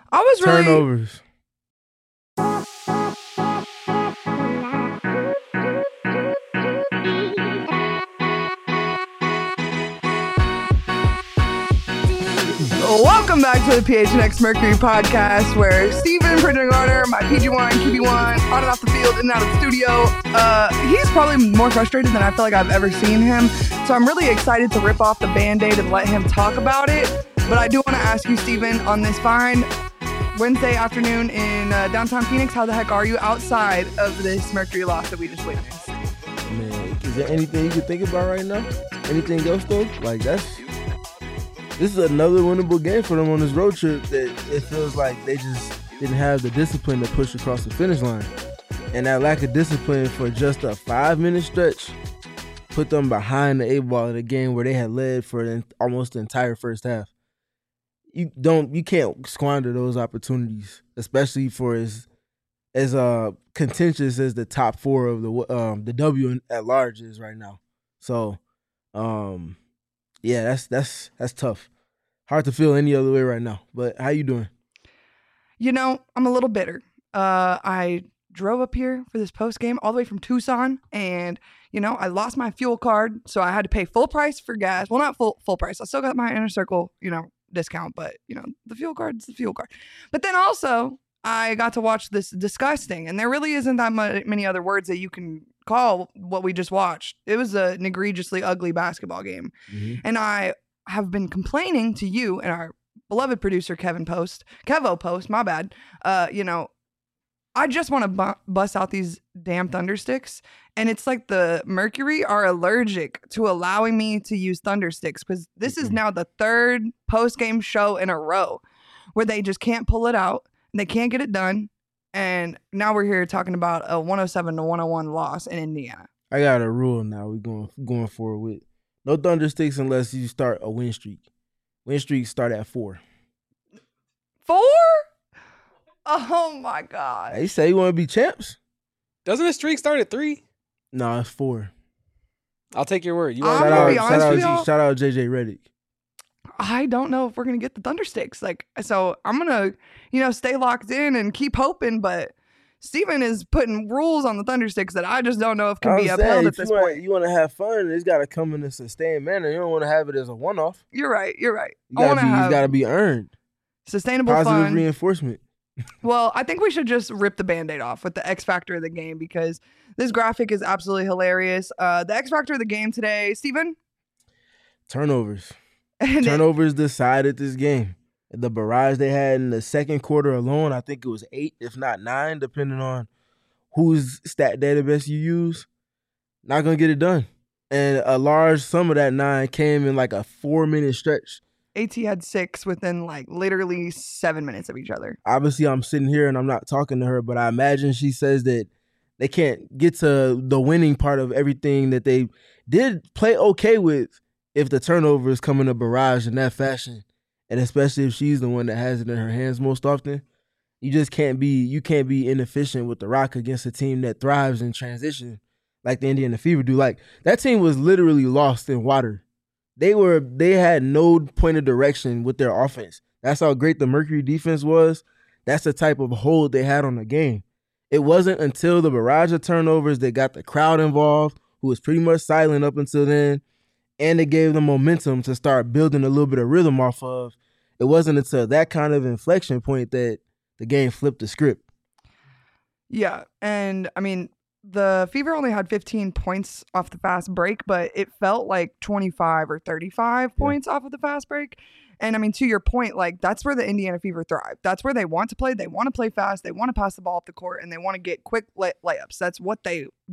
I was really Turnovers. Welcome back to the PHNX Mercury podcast, where Steven, Bridget Garner, my PG1, QB1, on and off the field, in and out of the studio. He's probably more frustrated than I feel like I've ever seen him. So I'm really excited to rip off the Band-Aid and let him talk about it. But I do want to ask you, Steven, on this fine Wednesday afternoon in downtown Phoenix, how the heck are you outside of this Mercury loss that we just witnessed? Man, is there anything you can think about right now? Anything else though? Like this is another winnable game for them on this road trip that it feels like they just didn't have the discipline to push across the finish line. And that lack of discipline for just a 5-minute stretch put them behind the 8-ball in a game where they had led for almost the entire first half. You can't squander those opportunities, especially for as contentious as the top four of the W at large is right now. So, yeah, that's tough. Hard to feel any other way right now. But how you doing? You know, I'm a little bitter. I drove up here for this post game all the way from Tucson, and I lost my fuel card, so I had to pay full price for gas. Well, not full price. I still got my Inner Circle, discount, but the fuel card's the fuel card. But then also, I got to watch this disgusting, and there really isn't that many other words that you can call what we just watched. It was an egregiously ugly basketball game. Mm-hmm. And I have been complaining to you and our beloved producer, Kevo Post, my bad. I just want to bust out these damn Thundersticks. And it's like the Mercury are allergic to allowing me to use Thundersticks, because this is now the third post-game show in a row where they just can't pull it out and they can't get it done. And now we're here talking about a 107-101 loss in Indiana. I got a rule now we're going forward with. No Thundersticks unless you start a win streak. Win streaks start at 4. 4? Oh, my God. Hey, say you want to be champs? Doesn't a streak start at 3? No, it's 4. I'll take your word. I'm going to be honest with y'all. Shout out JJ Redick. I don't know if we're going to get the Thundersticks. So I'm going to, stay locked in and keep hoping. But Steven is putting rules on the Thundersticks that I just don't know if can be upheld at this point. You want to have fun, it's got to come in a sustained manner. You don't want to have it as a one-off. You're right. It's got to be earned. Sustainable Positive fun. reinforcement. Well, I think we should just rip the Band-Aid off with the X factor of the game, because this graphic is absolutely hilarious. The X factor of the game today, Steven? Turnovers. Turnovers decided this game. The barrage they had in the second quarter alone, I think it was 8, if not 9, depending on whose stat database you use. Not going to get it done. And a large sum of that 9 came in like a 4-minute stretch. AT had 6 within literally 7 minutes of each other. Obviously, I'm sitting here and I'm not talking to her, but I imagine she says that they can't get to the winning part of everything that they did play okay with if the turnovers come in a barrage in that fashion. And especially if she's the one that has it in her hands most often. You can't be inefficient with the Rock against a team that thrives in transition like the Indiana Fever do. Like, that team was literally lost in water. They had no point of direction with their offense. That's how great the Mercury defense was. That's the type of hold they had on the game. It wasn't until the barrage of turnovers that got the crowd involved, who was pretty much silent up until then, and it gave them momentum to start building a little bit of rhythm off of. It wasn't until that kind of inflection point that the game flipped the script. Yeah, and I mean, the Fever only had 15 points off the fast break, but it felt like 25 or 35 points off of the fast break. And I mean, to your point, that's where the Indiana Fever thrive. That's where they want to play. They want to play fast. They want to pass the ball up the court, and they want to get quick layups. That's what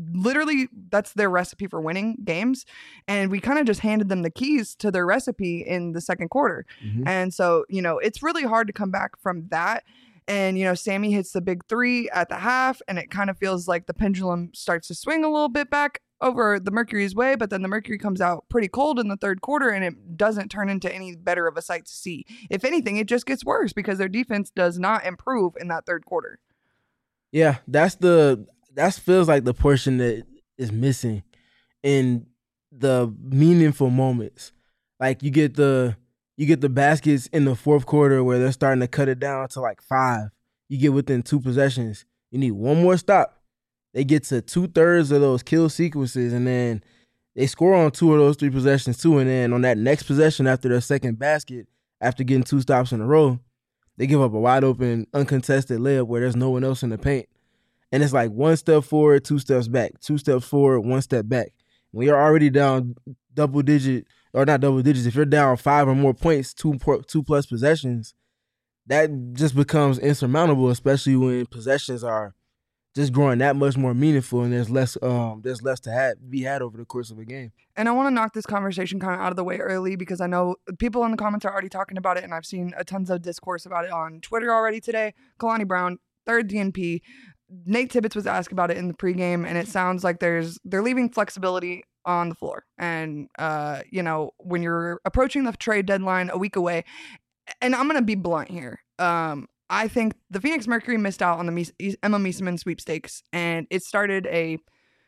that's their recipe for winning games. And we kind of just handed them the keys to their recipe in the second quarter. Mm-hmm. And so, it's really hard to come back from that. And, Sammy hits the big 3 at the half, and it kind of feels like the pendulum starts to swing a little bit back over the Mercury's way, but then the Mercury comes out pretty cold in the third quarter, and it doesn't turn into any better of a sight to see. If anything, it just gets worse because their defense does not improve in that third quarter. Yeah, that feels like the portion that is missing in the meaningful moments. Like, you get the You get the baskets in the fourth quarter where they're starting to cut it down to like 5. You get within 2 possessions. You need one more stop. They get to 2/3 of those kill sequences, and then they score on 2 of those 3 possessions too. And then on that next possession after their second basket, after getting 2 stops in a row, they give up a wide open, uncontested layup where there's no one else in the paint. And it's like 1 step forward, 2 steps back, 2 steps forward, 1 step back. When you're already down double digit, or not double digits, if you're down 5 or more points, 2 plus possessions, that just becomes insurmountable, especially when possessions are just growing that much more meaningful and there's less to be had over the course of a game. And I want to knock this conversation kind of out of the way early because I know people in the comments are already talking about it, and I've seen tons of discourse about it on Twitter already today. Kalani Brown, third DNP. Nate Tibbetts was asked about it in the pregame, and it sounds like they're leaving flexibility on the floor. And, when you're approaching the trade deadline a week away, and I'm going to be blunt here, I think the Phoenix Mercury missed out on the Emma Miesemann sweepstakes, and it started a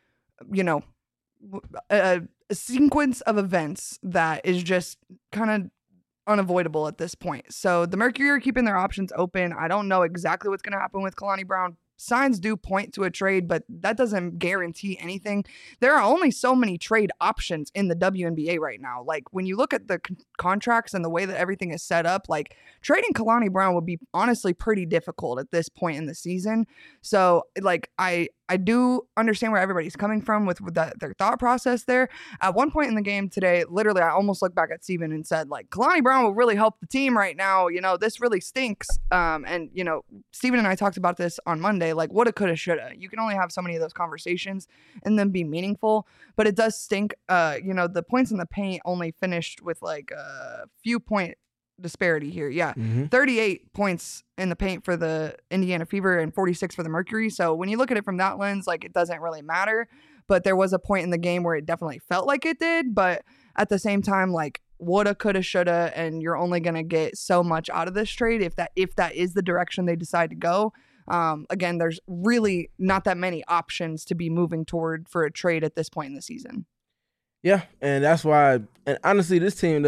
sequence of events that is just kind of unavoidable at this point. So the Mercury are keeping their options open. I don't know exactly what's going to happen with Kalani Brown. Signs do point to a trade, but that doesn't guarantee anything. There are only so many trade options in the WNBA right now. Like, when you look at the contracts and the way that everything is set up, like, trading Kalani Brown would be honestly pretty difficult at this point in the season. So, like, I do understand where everybody's coming from with their thought process there. At one point in the game today, literally, I almost looked back at Steven and said, like, Kalani Brown will really help the team right now. This really stinks. And Steven and I talked about this on Monday. Like, woulda, coulda, shoulda. You can only have so many of those conversations and then be meaningful. But it does stink. The points in the paint only finished with like a few point disparity here. Yeah. 38 points in the paint for the Indiana Fever and 46 for the Mercury. So when you look at it from that lens, like, it doesn't really matter. But there was a point in the game where it definitely felt like it did. But at the same time, like, woulda, coulda, shoulda, and you're only going to get so much out of this trade if that is the direction they decide to go. Again, there's really not that many options to be moving toward for a trade at this point in the season. Yeah, and that's why, and honestly, this team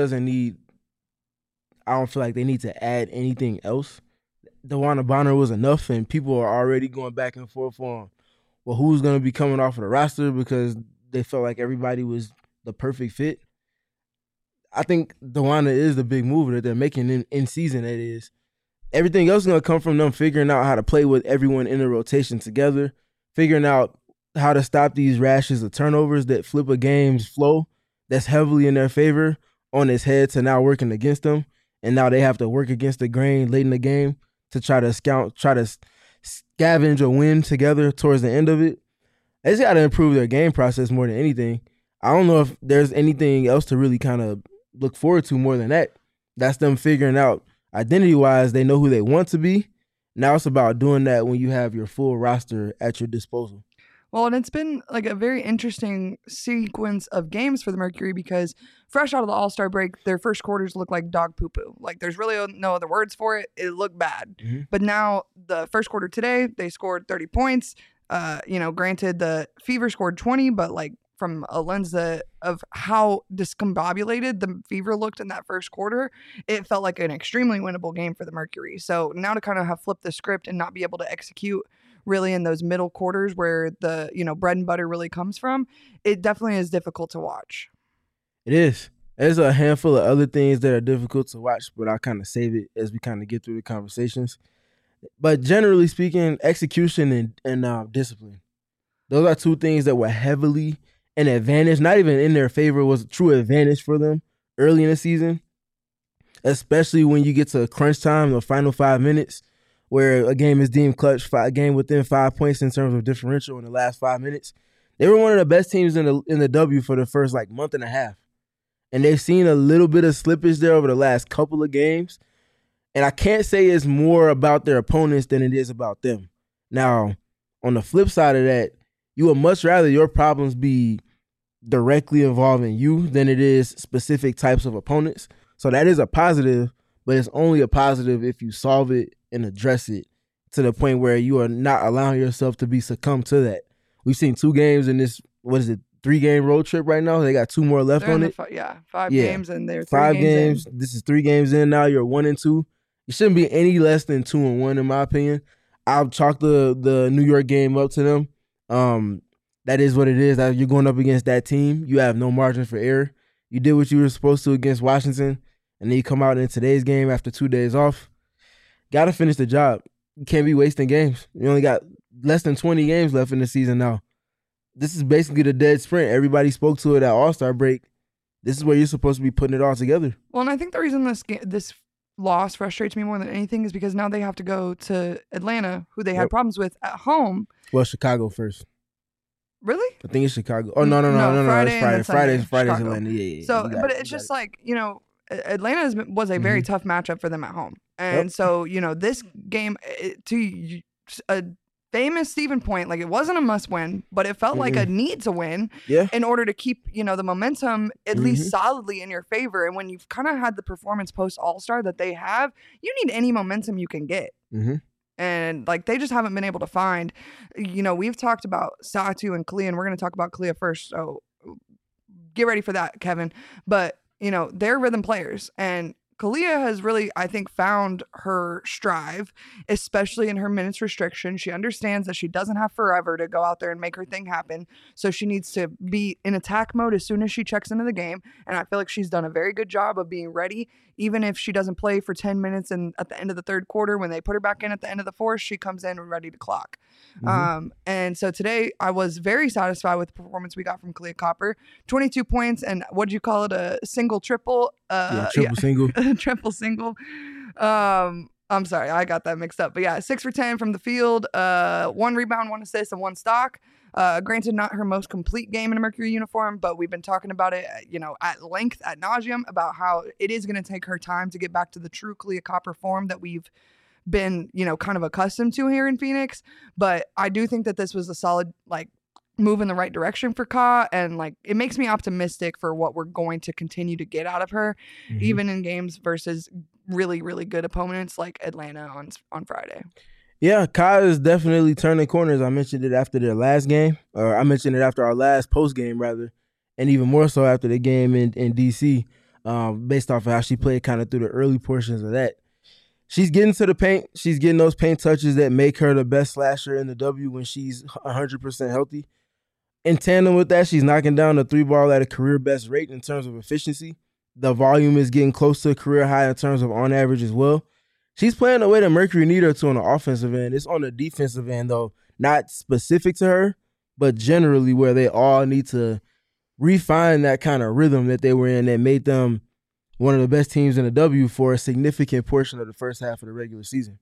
I don't feel like they need to add anything else. DeWanna Bonner was enough, and people are already going back and forth on, well, who's going to be coming off of the roster because they felt like everybody was the perfect fit. I think DeWanna is the big mover that they're making in season, that is. Everything else is going to come from them figuring out how to play with everyone in the rotation together, figuring out how to stop these rashes of turnovers that flip a game's flow that's heavily in their favor on its head to now working against them. And now they have to work against the grain late in the game to try to scavenge a win together towards the end of it. They just got to improve their game process more than anything. I don't know if there's anything else to really kind of look forward to more than that. That's them figuring out identity-wise, they know who they want to be. Now it's about doing that when you have your full roster at your disposal. Well, and it's been like a very interesting sequence of games for the Mercury because fresh out of the All-Star break, their first quarters look like dog poo-poo. Like, there's really no other words for it. It looked bad. Mm-hmm. But now the first quarter today, they scored 30 points. Granted, the Fever scored 20, but like from a lens of how discombobulated the Fever looked in that first quarter, it felt like an extremely winnable game for the Mercury. So now to kind of have flipped the script and not be able to execute really in those middle quarters where the, bread and butter really comes from, it definitely is difficult to watch. It is. There's a handful of other things that are difficult to watch, but I'll kind of save it as we kind of get through the conversations. But generally speaking, execution and discipline. Those are two things that were heavily an advantage, not even in their favor, was a true advantage for them early in the season, especially when you get to crunch time, the final 5 minutes, where a game is deemed clutch, a game within 5 points in terms of differential in the last 5 minutes. They were one of the best teams in the W for the first month and a half. And they've seen a little bit of slippage there over the last couple of games. And I can't say it's more about their opponents than it is about them. Now, on the flip side of that, you would much rather your problems be directly involving you than it is specific types of opponents. So that is a positive, but it's only a positive if you solve it and address it to the point where you are not allowing yourself to be succumbed to that. We've seen 2 games in this, 3-game road trip right now. They got 2 more left They're on in it. five Yeah. games, and they're 5 3 games games. This is 3 games in now. You're 1-2. You shouldn't be any less than 2-1 in my opinion. I'll chalk the New York game up to them. That is what it is. You're going up against that team. You have no margin for error. You did what you were supposed to against Washington, and then you come out in today's game after 2 days off. Got to finish the job. You can't be wasting games. You only got less than 20 games left in the season now. This is basically the dead sprint. Everybody spoke to it at All-Star break. This is where you're supposed to be putting it all together. Well, and I think the reason this loss frustrates me more than anything is because now they have to go to Atlanta, who they had problems with at home. Well, Chicago first. Really? I think it's Chicago. Oh, no. It's Friday. Friday's Atlanta. Yeah. So, but it's just like, Atlanta was a very tough matchup for them at home. And so, this game, to a famous Stephen point, like it wasn't a must win, but it felt like a need to win in order to keep, the momentum at least solidly in your favor. And when you've kind of had the performance post All-Star that they have, you need any momentum you can get. And like they just haven't been able to find, we've talked about Satou and Kalia, and we're going to talk about Kalia first. So get ready for that, Kevin. But, they're rhythm players, and Kalia has really, I think, found her strive, especially in her minutes restriction. She understands that she doesn't have forever to go out there and make her thing happen. So she needs to be in attack mode as soon as she checks into the game. And I feel like she's done a very good job of being ready. Even if she doesn't play for 10 minutes and at the end of the third quarter, when they put her back in at the end of the fourth, she comes in ready to clock. And so today I was very satisfied with the performance we got from Kalia Copper. 22 points and what do you call it? A single triple? Single. Triple single. I'm sorry, I got that mixed up. But yeah, 6 for 10 from the field, 1 rebound, 1 assist, and 1 stock. Granted, not her most complete game in a Mercury uniform, but we've been talking about it, at length, ad nauseum, about how it is going to take her time to get back to the true Kalia Copper form that we've been, kind of accustomed to here in Phoenix. But I do think that this was a solid, move in the right direction for Ka, and it makes me optimistic for what we're going to continue to get out of her, even in games versus really, really good opponents like Atlanta on Friday. Yeah, Ka is definitely turning corners. I mentioned it after their last game, or I mentioned it after our last post game rather, and even more so after the game in DC, based off of how she played kind of through the early portions of that. She's getting to the paint. She's getting those paint touches that make her the best slasher in the W when she's 100% healthy. In tandem with that, she's knocking down the 3-ball at a career best rate in terms of efficiency. The volume is getting close to a career high in terms of on average as well. She's playing the way that Mercury need her to on the offensive end. It's on the defensive end, though, not specific to her, but generally where they all need to refine that kind of rhythm that they were in that made them one of the best teams in the W for a significant portion of the first half of the regular season.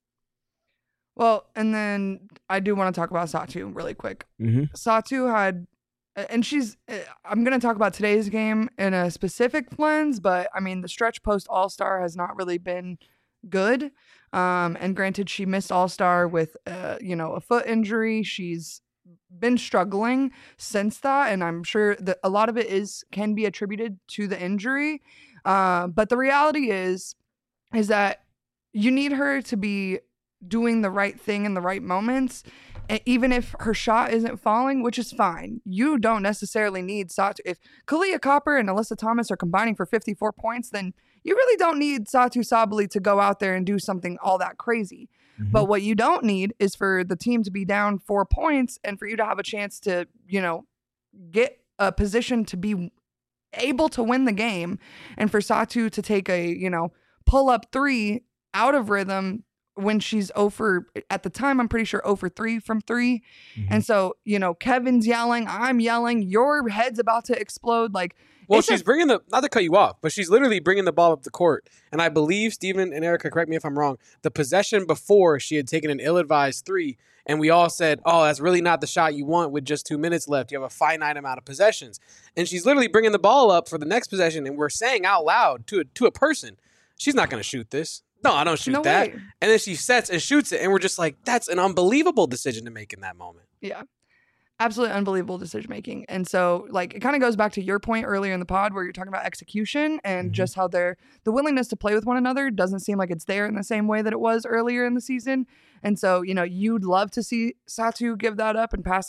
Well, and then I do want to talk about Satou really quick. Satou had, and I'm going to talk about today's game in a specific lens, but I mean, the stretch post All-Star has not really been good. And granted, she missed All-Star with, a foot injury. She's been struggling since that, and I'm sure that a lot of it can be attributed to the injury. But the reality is that you need her to be doing the right thing in the right moments, even if her shot isn't falling, which is fine. You don't necessarily need Satou. If Kalia Copper and Alyssa Thomas are combining for 54 points, then you really don't need Satou Sabally to go out there and do something all that crazy. But what you don't need is for the team to be down 4 points and for you to have a chance to, get a position to be able to win the game, and for Satou to take a, pull up 3 out of rhythm when she's 0 for, at the time, I'm pretty sure 0 for 3 from 3. And so, Kevin's yelling, I'm yelling, your head's about to explode. Well, she's bringing not to cut you off, but she's literally bringing the ball up the court. And I believe, Steven and Erica, correct me if I'm wrong, the possession before she had taken an ill-advised 3, and we all said, oh, that's really not the shot you want with just 2 minutes left. You have a finite amount of possessions. And she's literally bringing the ball up for the next possession, and we're saying out loud to a person, she's not going to shoot this. No, I don't shoot that. Way. And then she sets and shoots it, and we're just like, that's an unbelievable decision to make in that moment. Yeah. Absolutely unbelievable decision making. And so it kind of goes back to your point earlier in the pod where you're talking about execution and just how the willingness to play with one another doesn't seem like it's there in the same way that it was earlier in the season. And so, you'd love to see Satou give that up and pass it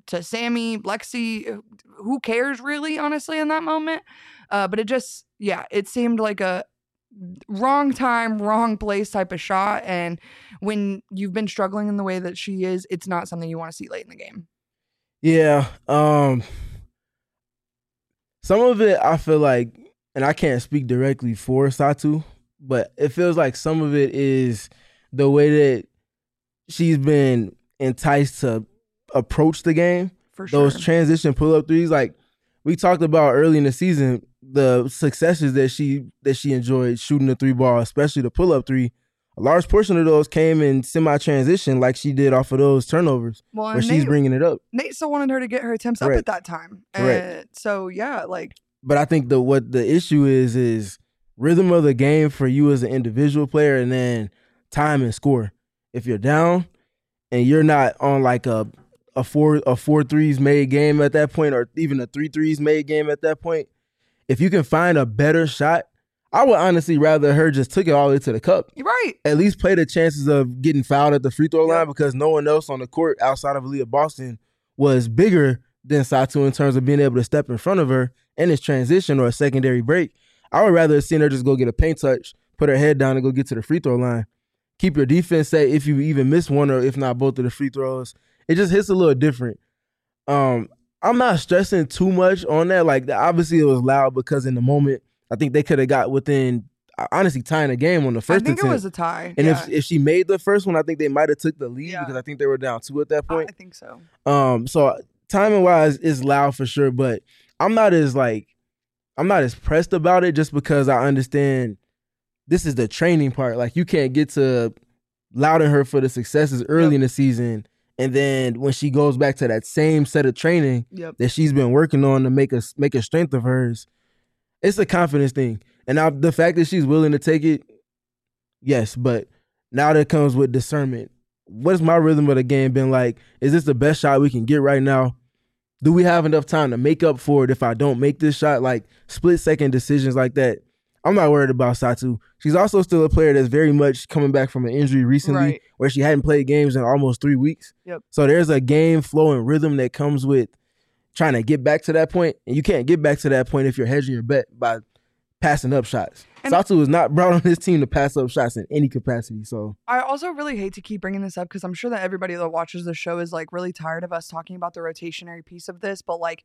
to Sammy, Lexi, who cares really, honestly, in that moment? But it seemed like a wrong time, wrong place type of shot. And when you've been struggling in the way that she is, it's not something you want to see late in the game. Yeah. Some of it I feel like, and I can't speak directly for Satou, but it feels like some of it is the way that she's been enticed to approach the game. For sure. Those transition pull-up threes, like we talked about early in the season, the successes that she enjoyed shooting the three ball, especially the pull-up three. A large portion of those came in semi-transition like she did off of those turnovers where she's bringing it up. Nate still wanted her to get her attempts up at that time. So, yeah, like. But I think what the issue is rhythm of the game for you as an individual player and then time and score. If you're down and you're not on like a four threes made game at that point or even a 3 threes made game at that point, if you can find a better shot, I would honestly rather her just took it all the way to the cup. You're right. At least play the chances of getting fouled at the free throw line because no one else on the court outside of Aaliyah Boston was bigger than Satou in terms of being able to step in front of her in this transition or a secondary break. I would rather have seen her just go get a paint touch, put her head down and go get to the free throw line. Keep your defense safe if you even miss one or if not both of the free throws. It just hits a little different. I'm not stressing too much on that. Like, obviously it was loud because in the moment, I think they could have got within, honestly, tying the game on the first attempt. I think it was a tie. And if she made the first one, I think they might have took the lead because I think they were down 2 at that point. I think so. So timing-wise, it's loud for sure, but I'm not as pressed about it just because I understand this is the training part. Like, you can't get to lauding her for the successes early in the season, and then when she goes back to that same set of training that she's been working on to make a strength of hers, it's a confidence thing. And now the fact that she's willing to take it, yes, but now that comes with discernment. What's my rhythm of the game been like? Is this the best shot we can get right now? Do we have enough time to make up for it if I don't make this shot? Like, split-second decisions like that. I'm not worried about Satou. She's also still a player that's very much coming back from an injury recently where she hadn't played games in almost 3 weeks. So there's a game flow and rhythm that comes with trying to get back to that point. And you can't get back to that point if you're hedging your bet by passing up shots. And Satou is not brought on this team to pass up shots in any capacity. So I also really hate to keep bringing this up because I'm sure that everybody that watches the show is like really tired of us talking about the rotationary piece of this. But like,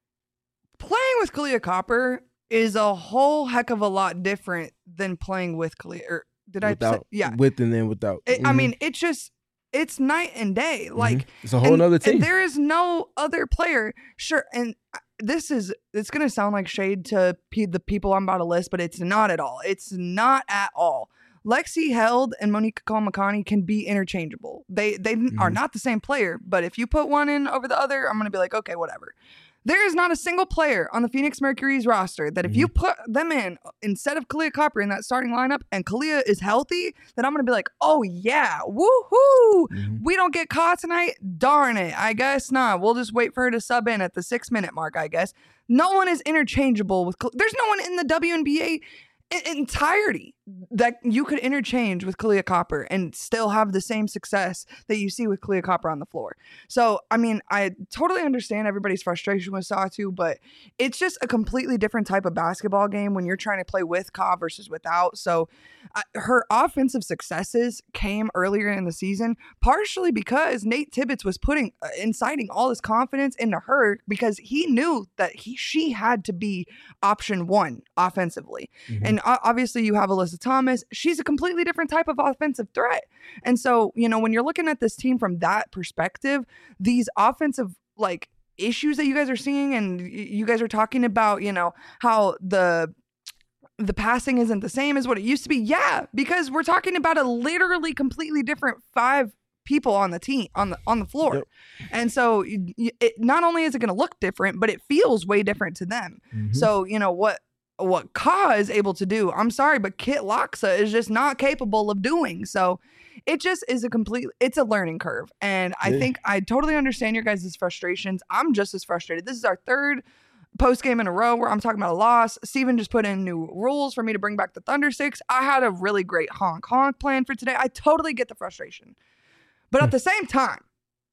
playing with Kahleah Copper is a whole heck of a lot different than playing with Kahleah. Or did without, I say? Yeah. With and then without. I mean, it's night and day. Like, it's a whole nother team. And there is no other player. Sure. And it's going to sound like shade to the people I'm about to list, but it's not at all. It's not at all. Lexi Held and Monica Kamakani can be interchangeable. They are not the same player, but if you put one in over the other, I'm going to be like, okay, whatever. There is not a single player on the Phoenix Mercury's roster that if you put them in instead of Kahleah Copper in that starting lineup and Kahleah is healthy, then I'm going to be like, oh yeah, woohoo. We don't get caught tonight. Darn it. I guess not. We'll just wait for her to sub in at the 6-minute mark, I guess. No one is interchangeable with there's no one in the WNBA entirety that you could interchange with Kahleah Copper and still have the same success that you see with Kahleah Copper on the floor. So, I mean, I totally understand everybody's frustration with Satou, but it's just a completely different type of basketball game when you're trying to play with Ka versus without. So, her offensive successes came earlier in the season, partially because Nate Tibbetts was inciting all his confidence into her because he knew that she had to be option one offensively. And obviously you have Alyssa Thomas. She's a completely different type of offensive threat. And so, when you're looking at this team from that perspective, these offensive issues that you guys are seeing and you guys are talking about, how the passing isn't the same as what it used to be. Yeah, because we're talking about a literally completely different 5 people on the team on the floor. And so not only is it going to look different, but it feels way different to them. So, what Ka is able to do, I'm sorry, but Kit Loxa is just not capable of doing. So it just is it's a learning curve. And I think I totally understand your guys' frustrations. I'm just as frustrated. This is our 3rd post game in a row where I'm talking about a loss. Steven just put in new rules for me to bring back the Thunder Sticks. I had a really great honk plan for today. I totally get the frustration. But at the same time,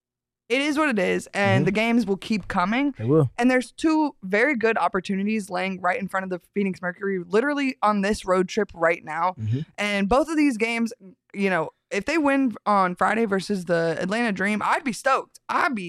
It is what it is, and the games will keep coming. They will. And there's two very good opportunities laying right in front of the Phoenix Mercury, literally on this road trip right now. And both of these games, you know, if they win on Friday versus the Atlanta Dream, I'd be stoked.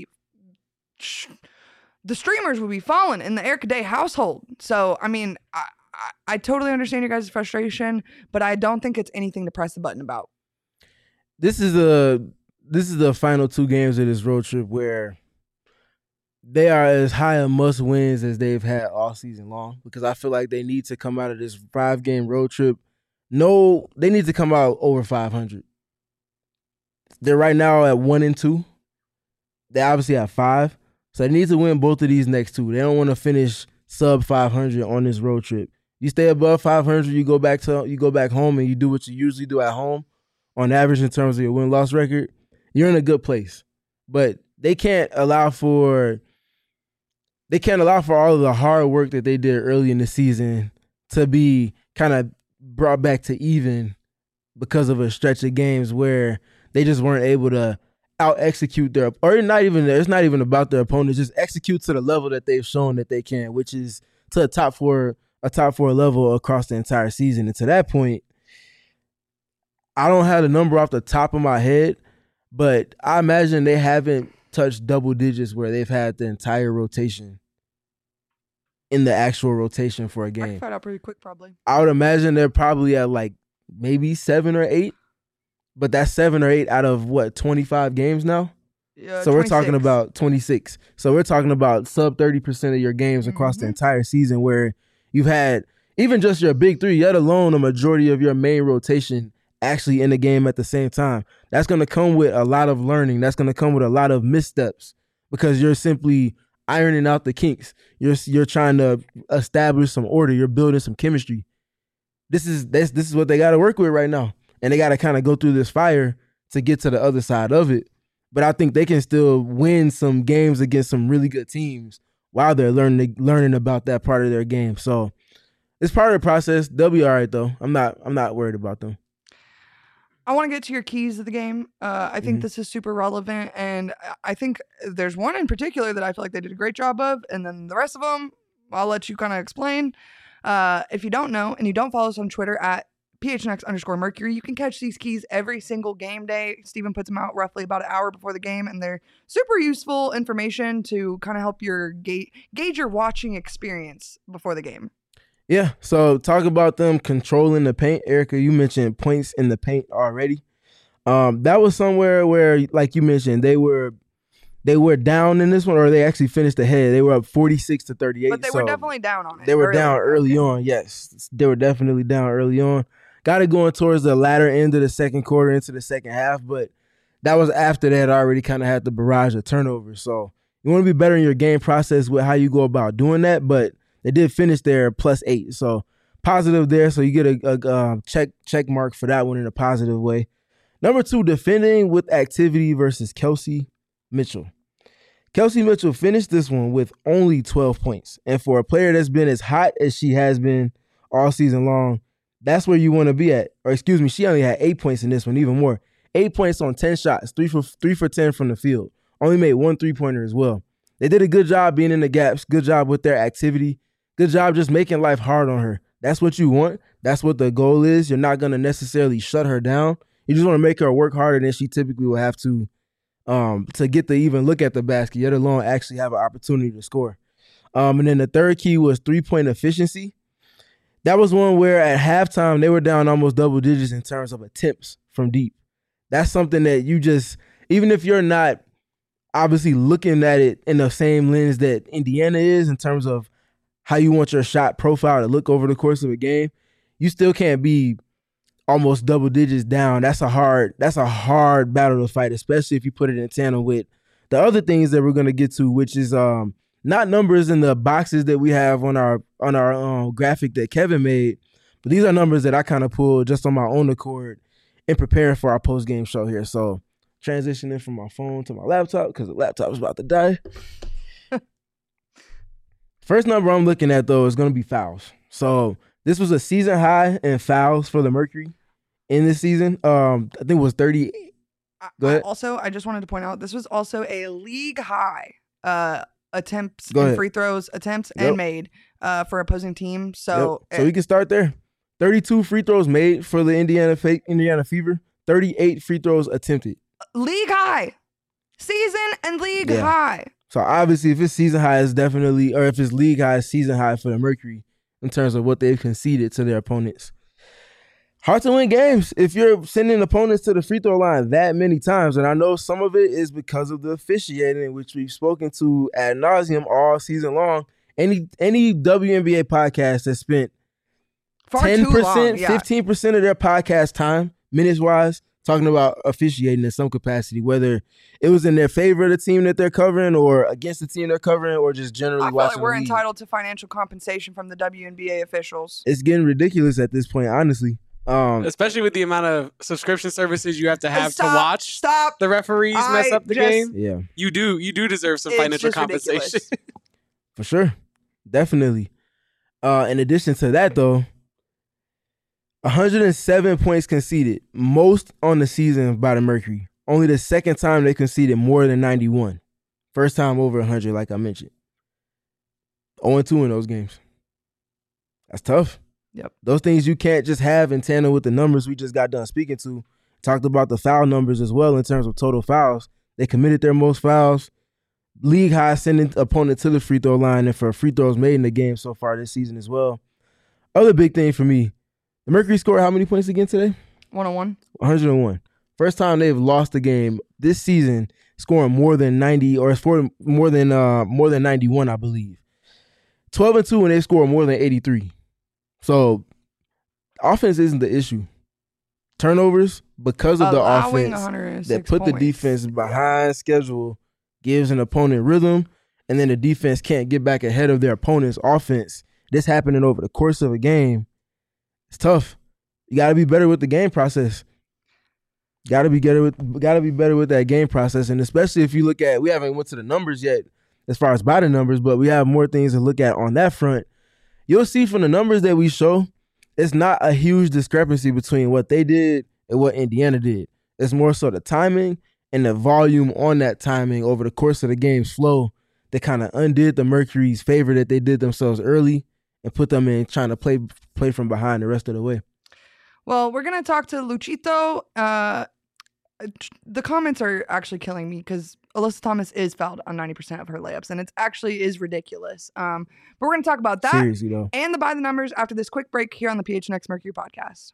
The streamers would be falling in the Erica Day household. So, I mean, I totally understand your guys' frustration, but I don't think it's anything to press the button about. This is the final 2 games of this road trip where they are as high a must wins as they've had all season long, because I feel like they need to come out of this 5-game road trip. No, they need to come out over 500. They're right now at 1-2. They obviously have 5. So they need to win both of these next 2. They don't want to finish sub 500 on this road trip. You stay above 500, you go back home and you do what you usually do at home on average in terms of your win-loss record. You're in a good place. But they can't allow for all of the hard work that they did early in the season to be kind of brought back to even because of a stretch of games where they just weren't able to out-execute it's not even about their opponents, just execute to the level that they've shown that they can, which is to a top four level across the entire season. And to that point, I don't have the number off the top of my head, but I imagine they haven't touched double digits where they've had the entire rotation in the actual rotation for a game. I can find out pretty quick, probably. I would imagine they're probably at like maybe 7 or 8, but that's 7 or 8 out of what, 25 games now? Yeah, so 26. we're talking about 26. So we're talking about sub 30% of your games across the entire season where you've had even just your big 3, let alone a majority of your main rotation actually in the game at the same time. That's going to come with a lot of learning. That's going to come with a lot of missteps because you're simply ironing out the kinks. You're trying to establish some order. You're building some chemistry. This is what they got to work with right now. And they got to kind of go through this fire to get to the other side of it. But I think they can still win some games against some really good teams while they're learning about that part of their game. So it's part of the process. They'll be all right, though. I'm not worried about them. I want to get to your keys of the game. I think this is super relevant, and I think there's one in particular that I feel like they did a great job of, and then the rest of them, I'll let you kind of explain. If you don't know, and you don't follow us on Twitter at PHNX_Mercury, you can catch these keys every single game day. Steven puts them out roughly about an hour before the game, and they're super useful information to kind of help your gauge your watching experience before the game. Yeah, so talk about them controlling the paint. Erica, you mentioned points in the paint already. That was somewhere where, like you mentioned, they were down in this one, or they actually finished ahead. They were up 46-38. But they were definitely down on it. They were down early on, yes. They were definitely down early on. Got it going towards the latter end of the second quarter into the second half, but that was after they had already kind of had the barrage of turnovers. So you want to be better in your game process with how you go about doing that, but they did finish there +8. So positive there, so you get a check mark for that one in a positive way. Number 2, defending with activity versus Kelsey Mitchell. Kelsey Mitchell finished this one with only 12 points. And for a player that's been as hot as she has been all season long, that's where you want to be at. Or excuse me, she only had 8 points in this one, even more. 8 points on 10 shots, 3 for 10 from the field. Only made 1 3-pointer as well. They did a good job being in the gaps, good job with their activity, good job just making life hard on her. That's what you want. That's what the goal is. You're not going to necessarily shut her down. You just want to make her work harder than she typically will have to get to even look at the basket, yet alone actually have an opportunity to score. And then the third key was 3-point efficiency. That was one where at halftime they were down almost double digits in terms of attempts from deep. That's something that you just, even if you're not obviously looking at it in the same lens that Indiana is in terms of how you want your shot profile to look over the course of a game, you still can't be almost double digits down. That's a hard battle to fight, especially if you put it in tandem with the other things that we're going to get to, which is not numbers in the boxes that we have on our graphic that Kevin made, but these are numbers that I kind of pulled just on my own accord in preparing for our post-game show here. So transitioning from my phone to my laptop because the laptop is about to die. First number I'm looking at, though, is going to be fouls. So this was a season high in fouls for the Mercury in this season. I think it was 38 Go ahead. I just wanted to point out this was also a league high attempts Go and ahead. free throws attempts Yep. and made for opposing teams. So So we can start there. 32 free throws made for the Indiana Fever. 38 free throws attempted. league high, season and league Yeah. high. So obviously, if it's season high, it's definitely, or if it's league high, it's season high for the Mercury in terms of what they've conceded to their opponents. Hard to win games if you're sending opponents to the free throw line that many times. And I know some of it is because of the officiating, which we've spoken to ad nauseum all season long. Any WNBA podcast has spent Far 10%, too long. Yeah. 15% of their podcast time, minutes-wise, talking about officiating in some capacity, whether it was in their favor of the team that they're covering or against the team they're covering or just generally I feel watching like we're the league. entitled to financial compensation from the WNBA officials. It's getting ridiculous at this point, honestly. Especially with the amount of subscription services you have to have to watch Stop. the referees mess up the game. Yeah, You do deserve some It's financial just compensation. ridiculous. for sure. Definitely. In addition to that, though, 107 points conceded, most on the season by the Mercury. Only the second time they conceded more than 91. First time over 100, like I mentioned. 0-2 in those games. That's tough. Yep. Those things you can't just have in tandem with the numbers we just got done speaking to. Talked about the foul numbers as well in terms of total fouls. They committed their most fouls. League high sending opponent to the free throw line and for free throws made in the game so far this season as well. Other big thing for me, the Mercury scored how many points again today? 101. 101. First time they've lost a game this season scoring more than 90 or scored more than 91, I believe. 12-2 and they scored more than 83. So offense isn't the issue. Turnovers, because of the Allowing offense 106 that put the points. defense behind schedule, gives an opponent rhythm, and then the defense can't get back ahead of their opponent's offense. This happening over the course of a game, it's tough. You got to be better with the game process. Got to be better with that game process, and especially if you look at, we haven't went to the numbers yet as far as by the numbers, but we have more things to look at on that front. You'll see from the numbers that we show, it's not a huge discrepancy between what they did and what Indiana did. It's more so the timing and the volume on that timing over the course of the game's flow that kind of undid the Mercury's favor that they did themselves early and put them in trying to play from behind the rest of the way. Well, we're going to talk to Luchito. The comments are actually killing me because Alyssa Thomas is fouled on 90% of her layups, and it actually is ridiculous. But we're going to talk about that Seriously, though. and the By the Numbers after this quick break here on the PHNX Mercury podcast.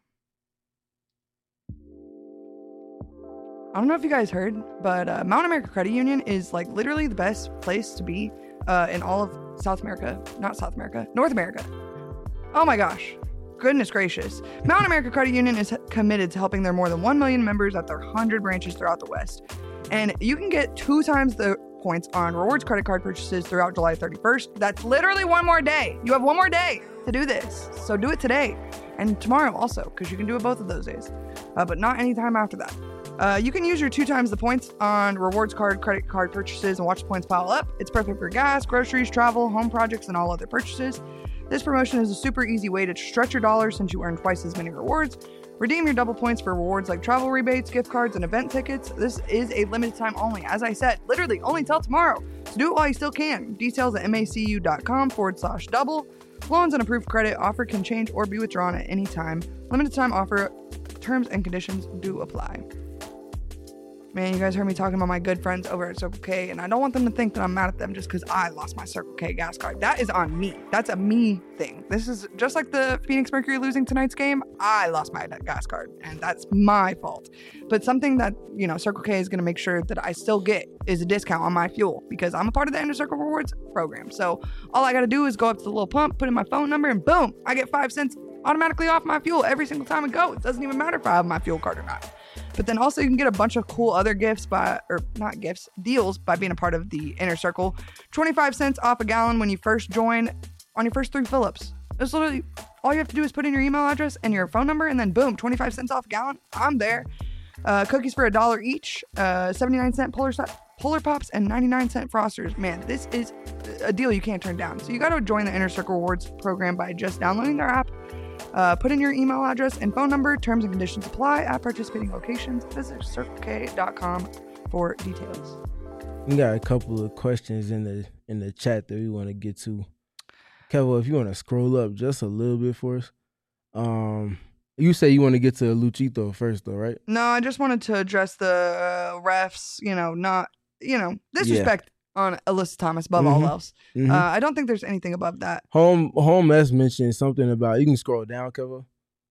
I don't know if you guys heard, but Mountain America Credit Union is like literally the best place to be in all of North America. Oh my gosh. Goodness gracious. Mountain America Credit Union is committed to helping their more than 1 million members at their 100 branches throughout the West. And you can get 2 times the points on rewards credit card purchases throughout July 31st. That's literally one more day. You have one more day to do this. So do it today and tomorrow also, because you can do it both of those days, but not anytime after that. You can use your 2 times the points on rewards credit card purchases and watch the points pile up. It's perfect for gas, groceries, travel, home projects, and all other purchases. This promotion is a super easy way to stretch your dollars since you earn twice as many rewards. Redeem your double points for rewards like travel rebates, gift cards, and event tickets. This is a limited time only. As I said, literally only till tomorrow. So do it while you still can. Details at macu.com/double. Loans and approved credit offer can change or be withdrawn at any time. Limited time offer. Terms and conditions do apply. Man, you guys heard me talking about my good friends over at Circle K, and I don't want them to think that I'm mad at them just because I lost my Circle K gas card. That is on me. That's a me thing. This is just like the Phoenix Mercury losing tonight's game. I lost my gas card, and that's my fault. But something that, Circle K is going to make sure that I still get is a discount on my fuel because I'm a part of the Inner Circle Rewards program. So all I got to do is go up to the little pump, put in my phone number, and boom, I get 5 cents automatically off my fuel every single time I go. It doesn't even matter if I have my fuel card or not. But then also you can get a bunch of cool other deals by being a part of the Inner Circle. 25 cents off a gallon when you first join on your first 3 fill-ups. It's literally all you have to do is put in your email address and your phone number, and then boom, 25 cents off a gallon. I'm there. Cookies for $1 each, 79-cent Polar Pops, and 99-cent Frosters. Man, this is a deal you can't turn down. So you got to join the Inner Circle Rewards program by just downloading their app, Put in your email address and phone number. Terms and conditions apply at participating locations. Visit circlek.com for details. We got a couple of questions in the chat that we want to get to. Kevo, if you want to scroll up just a little bit for us. You say you want to get to Luchito first, though, right? No, I just wanted to address the refs, disrespect on Alyssa Thomas above all else. Mm-hmm. I don't think there's anything above that. Home S mentioned something about, you can scroll down, Kevo.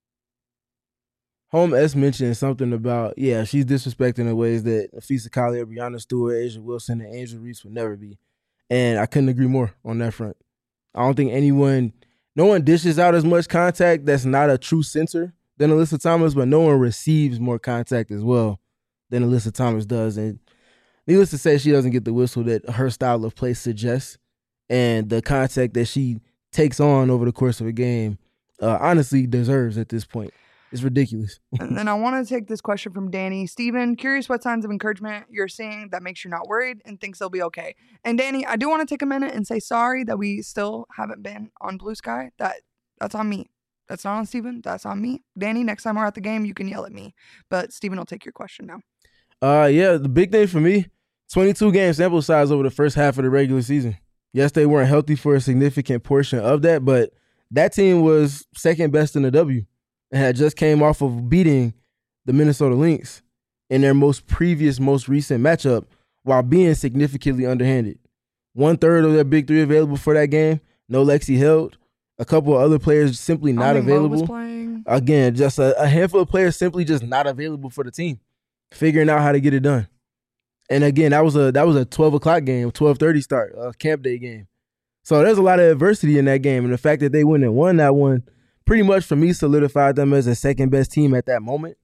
Home S mentioned something about, she's disrespecting in ways that Afisa Collier, Brianna Stewart, Asia Wilson, and Angel Reese would never be. And I couldn't agree more on that front. I don't think no one dishes out as much contact that's not a true center than Alyssa Thomas, but no one receives more contact as well than Alyssa Thomas does. And needless to say, she doesn't get the whistle that her style of play suggests. And the contact that she takes on over the course of a game honestly deserves at this point. It's ridiculous. And then I want to take this question from Danny. Steven, curious what signs of encouragement you're seeing that makes you not worried and thinks they'll be okay. And Danny, I do want to take a minute and say sorry that we still haven't been on Blue Sky. That's on me. That's not on Steven. That's on me. Danny, next time we're at the game, you can yell at me. But Steven will take your question now. The big thing for me, 22-game sample size over the first half of the regular season. Yes, they weren't healthy for a significant portion of that, but that team was second best in the W. And had just came off of beating the Minnesota Lynx in their most recent matchup while being significantly underhanded. 1/3 of their big three available for that game. No Lexi Held. A couple of other players simply not available. Again, just a handful of players simply just not available for the team. Figuring out how to get it done. And again, that was a 12 o'clock game, 12:30 start, a camp day game. So there's a lot of adversity in that game. And the fact that they went and won that one pretty much for me solidified them as a second best team at that moment.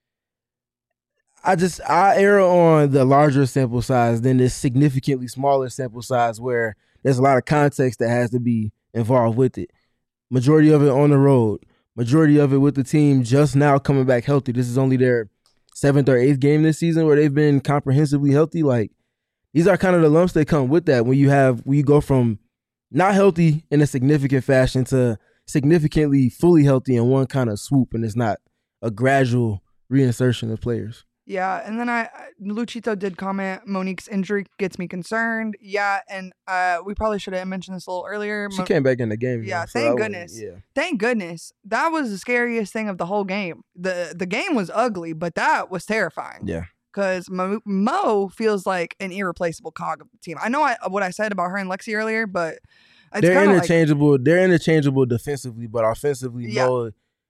I err on the larger sample size than this significantly smaller sample size where there's a lot of context that has to be involved with it. Majority of it on the road. Majority of it with the team just now coming back healthy. This is only their 7th or 8th game this season where they've been comprehensively healthy. Like, these are kind of the lumps that come with that when you go from not healthy in a significant fashion to significantly fully healthy in one kind of swoop, and it's not a gradual reinsertion of players. Yeah, and then Luchito did comment, Monique's injury gets me concerned. Yeah, and we probably should have mentioned this a little earlier. She came back in the game. Yeah, thank goodness. Thank goodness. That was the scariest thing of the whole game. The game was ugly, but that was terrifying. Yeah. Because Mo feels like an irreplaceable cog of the team. I know what I said about her and Lexi earlier, but they're interchangeable. They're interchangeable defensively, but offensively, Mo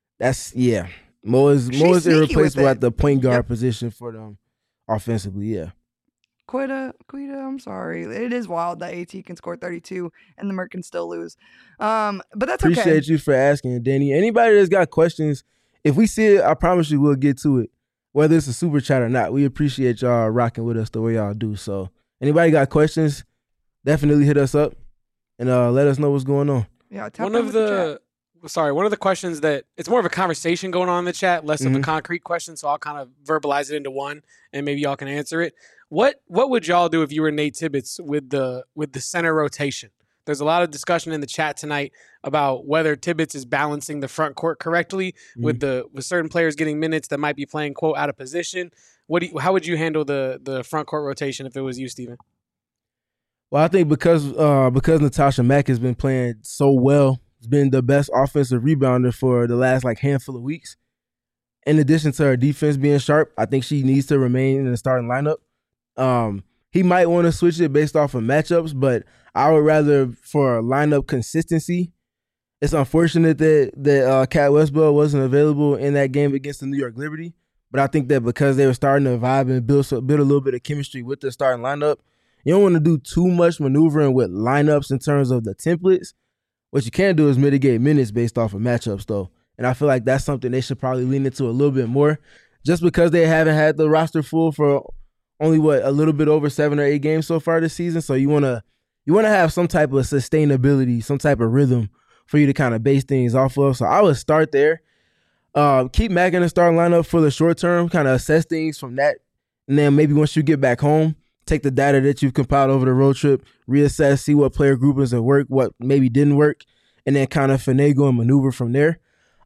is irreplaceable at the point guard position for them offensively. Yeah. Quita, I'm sorry. It is wild that AT can score 32 and the Merc can still lose. But that's okay. Appreciate you for asking, Danny. Anybody that's got questions, if we see it, I promise you we'll get to it. Whether it's a super chat or not, we appreciate y'all rocking with us the way y'all do. So anybody got questions, definitely hit us up. And let us know what's going on. Yeah, one of the questions that it's more of a conversation going on in the chat, less of a concrete question. So I'll kind of verbalize it into one, and maybe y'all can answer it. What would y'all do if you were Nate Tibbetts with the center rotation? There's a lot of discussion in the chat tonight about whether Tibbetts is balancing the front court correctly with certain players getting minutes that might be playing quote out of position. How would you handle the front court rotation if it was you, Steven? Well, I think because Natasha Mack has been playing so well, has been the best offensive rebounder for the last handful of weeks. In addition to her defense being sharp, I think she needs to remain in the starting lineup. He might want to switch it based off of matchups, but I would rather for lineup consistency. It's unfortunate that Kat Westbell wasn't available in that game against the New York Liberty, but I think that because they were starting to vibe and build a little bit of chemistry with the starting lineup, you don't want to do too much maneuvering with lineups in terms of the templates. What you can do is mitigate minutes based off of matchups, though. And I feel like that's something they should probably lean into a little bit more. Just because they haven't had the roster full for only, a little bit over 7 or 8 games so far this season. So you want to have some type of sustainability, some type of rhythm for you to kind of base things off of. So I would start there. Keep Mack in the starting lineup for the short term, kind of assess things from that. And then maybe once you get back home, take the data that you've compiled over the road trip, reassess, see what player groupings have worked, what maybe didn't work, and then kind of finagle and maneuver from there.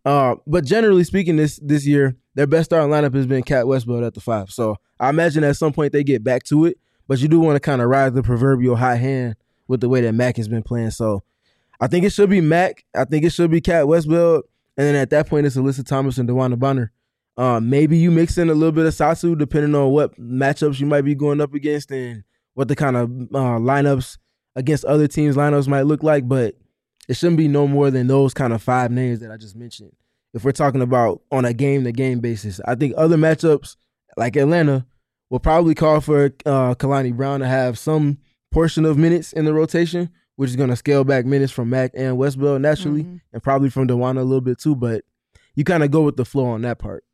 But generally speaking, this year, their best starting lineup has been Cat Westbeld at the 5. So I imagine at some point they get back to it. But you do want to kind of ride the proverbial hot hand with the way that Mac has been playing. So I think it should be Mac. I think it should be Cat Westbeld. And then at that point, it's Alyssa Thomas and DeWanna Bonner. Maybe you mix in a little bit of Satsu, depending on what matchups you might be going up against and what the kind of lineups against other teams' lineups might look like. But it shouldn't be no more than those kind of 5 names that I just mentioned. If we're talking about on a game-to-game basis, I think other matchups like Atlanta will probably call for Kalani Brown to have some portion of minutes in the rotation, which is going to scale back minutes from Mac and Westbeld naturally, and probably from DeWanna a little bit too. But you kind of go with the flow on that part.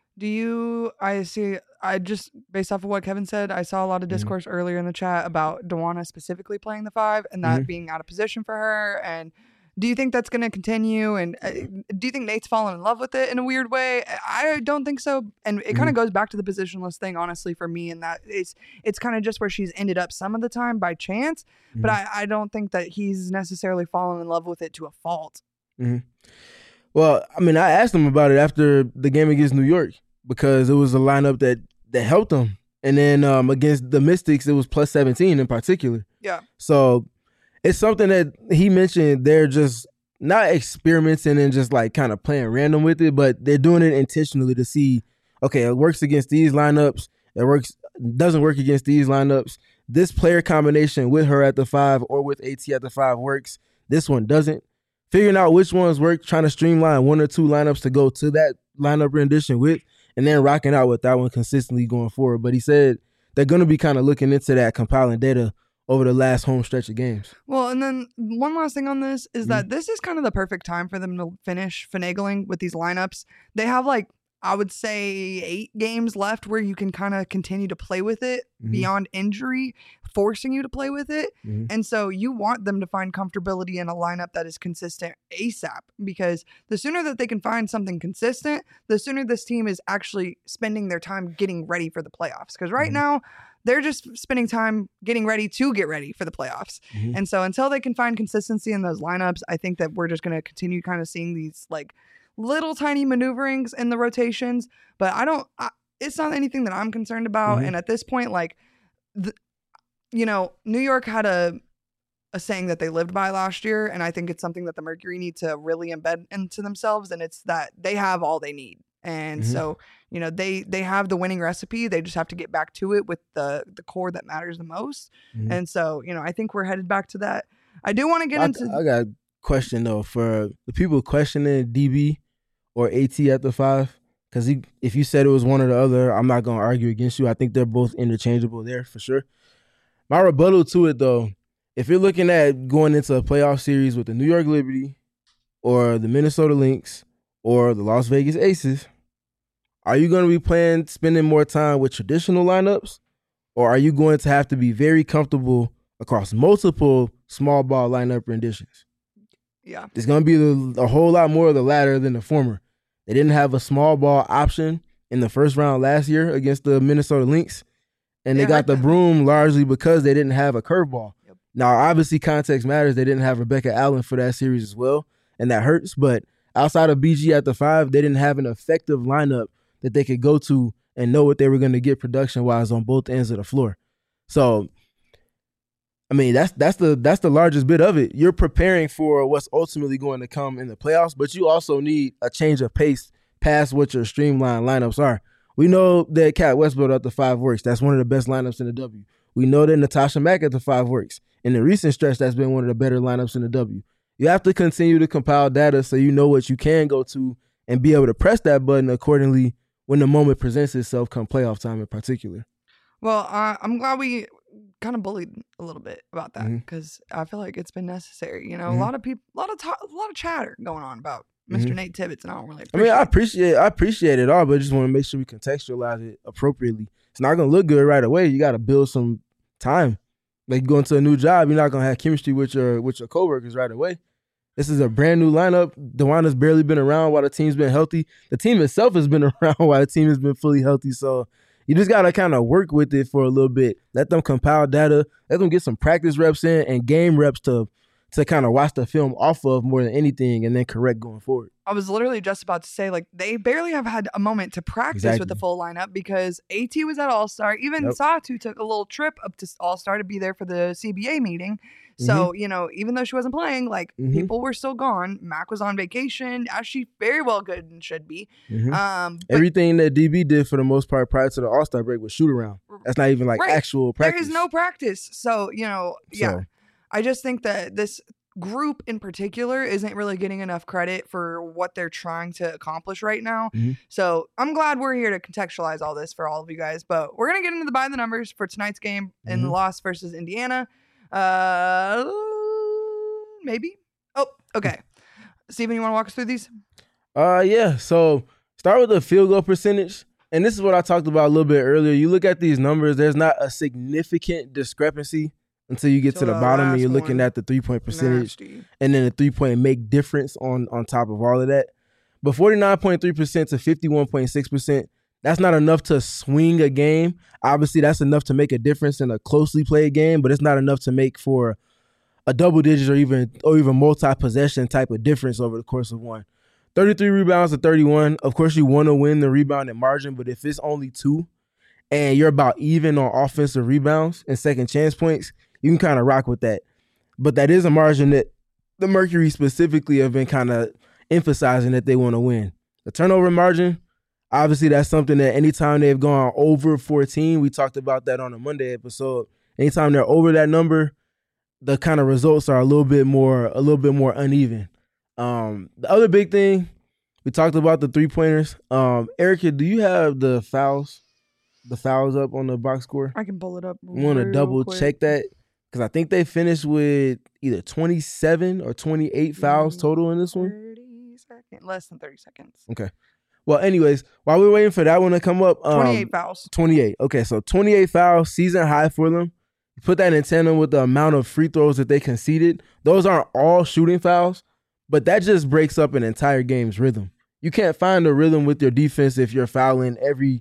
I just, based off of what Kevin said, I saw a lot of discourse earlier in the chat about DeWanna specifically playing the 5 and that being out of position for her. And do you think that's going to continue? And do you think Nate's fallen in love with it in a weird way? I don't think so. And it kind of goes back to the positionless thing, honestly, for me. And that it's kind of just where she's ended up some of the time by chance. But I don't think that he's necessarily fallen in love with it to a fault. Well, I mean, I asked him about it after the game against New York because it was a lineup that helped them. And then against the Mystics, it was plus 17 in particular. Yeah. So it's something that he mentioned they're just not experimenting and just like kind of playing random with it, but they're doing it intentionally to see, okay, it works against these lineups. Doesn't work against these lineups. This player combination with her at the 5 or with AT at the 5 works. This one doesn't. Figuring out which ones work, trying to streamline 1 or 2 lineups to go to that lineup rendition with, and then rocking out with that one consistently going forward. But he said they're going to be kind of looking into that, compiling data over the last home stretch of games. Well, and then one last thing on this is that this is kind of the perfect time for them to finish finagling with these lineups. They have I would say 8 games left where you can kind of continue to play with it beyond injury, forcing you to play with it. And so you want them to find comfortability in a lineup that is consistent ASAP, because the sooner that they can find something consistent, the sooner this team is actually spending their time getting ready for the playoffs. Because right now, they're just spending time getting ready to get ready for the playoffs. And so until they can find consistency in those lineups, I think that we're just going to continue kind of seeing these little tiny maneuverings in the rotations. But it's not anything that I'm concerned about. And at this point, New York had a saying that they lived by last year. And I think it's something that the Mercury need to really embed into themselves. And it's that they have all they need. And so, they have the winning recipe. They just have to get back to it with the core that matters the most. And so, I think we're headed back to that. I do want to get into... I got a question, though, for the people questioning DB or AT at the 5. Because if you said it was one or the other, I'm not going to argue against you. I think they're both interchangeable there for sure. My rebuttal to it, though, if you're looking at going into a playoff series with the New York Liberty or the Minnesota Lynx or the Las Vegas Aces, are you going to be spending more time with traditional lineups, or are you going to have to be very comfortable across multiple small ball lineup renditions? Yeah. It's going to be a whole lot more of the latter than the former. They didn't have a small ball option in the first round last year against the Minnesota Lynx, and they got the broom largely because they didn't have a curveball. Yep. Now, obviously, context matters. They didn't have Rebecca Allen for that series as well, and that hurts. But outside of BG at the 5, they didn't have an effective lineup that they could go to and know what they were going to get production-wise on both ends of the floor. So, I mean, that's the largest bit of it. You're preparing for what's ultimately going to come in the playoffs, but you also need a change of pace past what your streamlined lineups are. We know that Cat Westbeld at the 5 works. That's one of the best lineups in the W. We know that Natasha Mack at the 5 works. In the recent stretch, that's been one of the better lineups in the W. You have to continue to compile data so you know what you can go to and be able to press that button accordingly when the moment presents itself come playoff time in particular. Well, I'm glad we kind of bullied a little bit about that because I feel like it's been necessary. A lot of people, a lot of chatter going on about Mr. Nate Tibbetts, and I don't really appreciate I appreciate it all, but I just want to make sure we contextualize it appropriately. It's not going to look good right away. You got to build some time. Like going to a new job, you're not going to have chemistry with your coworkers right away. This is a brand new lineup. DeWanna's barely been around while the team's been healthy. The team itself has been around while the team has been fully healthy. So you just got to kind of work with it for a little bit. Let them compile data. Let them get some practice reps in and game reps to to kind of watch the film off of more than anything and then correct going forward. I was literally just about to say, like, they barely have had a moment to practice with the full lineup because AT was at All-Star. Even Satu took a little trip up to All-Star to be there for the CBA meeting. So, you know, even though she wasn't playing, like, people were still gone. Mac was on vacation, as she very well could and should be. Everything that DB did for the most part prior to the All-Star break was shoot around. That's not even like actual practice. There is no practice. So, you know, I just think that this group in particular isn't really getting enough credit for what they're trying to accomplish right now. So I'm glad we're here to contextualize all this for all of you guys. But we're going to get into the by the numbers for tonight's game in the loss versus Indiana. Maybe. Oh, okay. Steven, you want to walk us through these? Yeah. So start with the field goal percentage. And this is what I talked about a little bit earlier. You look at these numbers, there's not a significant discrepancy until you get to the bottom and you're looking at the 3-point percentage and then the 3-point make difference on top of all of that. But 49.3% to 51.6%, that's not enough to swing a game. Obviously, that's enough to make a difference in a closely played game, but it's not enough to make for a double digit or even multi-possession type of difference over the course of one. 33 rebounds to 31. Of course, you want to win the rebounding margin, but if it's only 2 and you're about even on offensive rebounds and second chance points, you can kind of rock with that. But that is a margin that the Mercury specifically have been kind of emphasizing that they want to win. The turnover margin, obviously that's something that anytime they've gone over 14, we talked about that on a Monday episode. Anytime they're over that number, the kind of results are a little bit more uneven. The other big thing, we talked about the 3-pointers. Erica, do you have the fouls up on the box score? I can pull it up. I want to double check that because I think they finished with either 27 or 28 fouls total in this one. 30 seconds, less than 30 seconds. Okay. Well, anyways, while we're waiting for that one to come up. 28 fouls. 28. Okay, so 28 fouls, season high for them. You put that in tandem with the amount of free throws that they conceded. Those aren't all shooting fouls, but that just breaks up an entire game's rhythm. You can't find a rhythm with your defense if you're fouling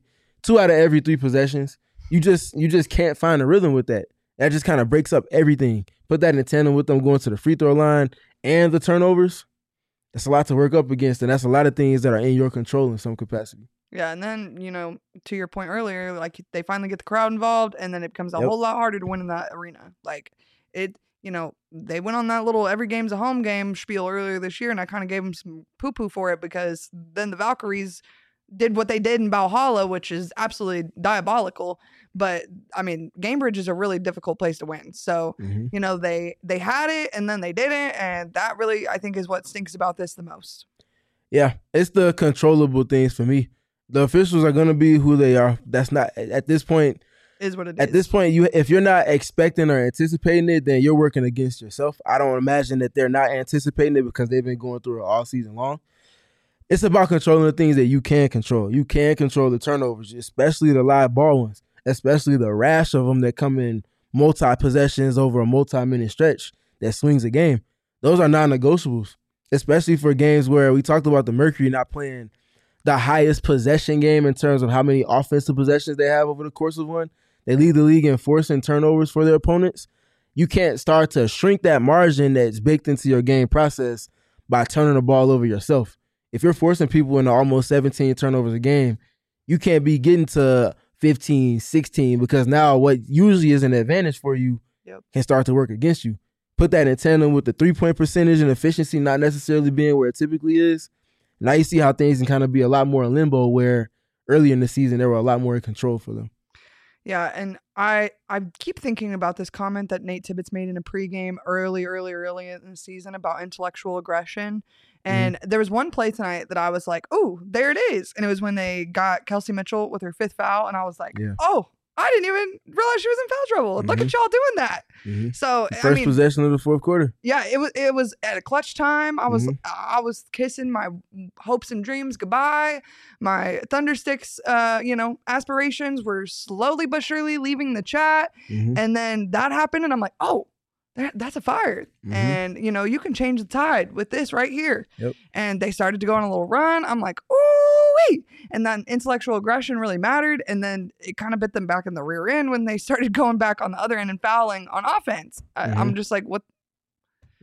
2 out of every 3 possessions. You just can't find a rhythm with that. That just kind of breaks up everything. Put that in tandem with them going to the free throw line and the turnovers. That's a lot to work up against, and that's a lot of things that are in your control in some capacity. Yeah, and then, you know, to your point earlier, like they finally get the crowd involved, and then it becomes a whole lot harder to win in that arena. Like it, you know, they went on that little every game's a home game spiel earlier this year, and I kind of gave them some poo-poo for it because then the Valkyries did what they did in Valhalla, which is absolutely diabolical. But I mean, Gamebridge is a really difficult place to win. So, you know, they had it and then they didn't. And that really, I think, is what stinks about this the most. Yeah, it's the controllable things for me. The officials are going to be who they are. That's not, at this point, is what it is. At this point, if you're not expecting or anticipating it, then you're working against yourself. I don't imagine that they're not anticipating it because they've been going through it all season long. It's about controlling the things that you can control. You can control the turnovers, especially the live ball ones, especially the rash of them that come in multi-possessions over a multi-minute stretch that swings a game. Those are non-negotiables, especially for games where we talked about the Mercury not playing the highest possession game in terms of how many offensive possessions they have over the course of one. They lead the league in forcing turnovers for their opponents. You can't start to shrink that margin that's baked into your game process by turning the ball over yourself. If you're forcing people into almost 17 turnovers a game, you can't be getting to 15, 16 because now what usually is an advantage for you can start to work against you. Put that in tandem with the 3-point percentage and efficiency not necessarily being where it typically is. Now you see how things can kind of be a lot more in limbo where earlier in the season there were a lot more in control for them. Yeah, and I keep thinking about this comment that Nate Tibbetts made in a pregame early in the season about intellectual aggression. And there was one play tonight that I was like, oh, there it is. And it was when they got Kelsey Mitchell with her 5th foul. And I was like, oh, I didn't even realize she was in foul trouble. Look at y'all doing that. So first possession of the fourth quarter. Yeah, it was at a clutch time. I was kissing my hopes and dreams goodbye. My Thundersticks, aspirations were slowly but surely leaving the chat. And then that happened, and I'm like, oh, that's a fire. And, you can change the tide with this right here. And they started to go on a little run. I'm like, ooh-wee. And then intellectual aggression really mattered. And then it kind of bit them back in the rear end when they started going back on the other end and fouling on offense. I'm just like, what?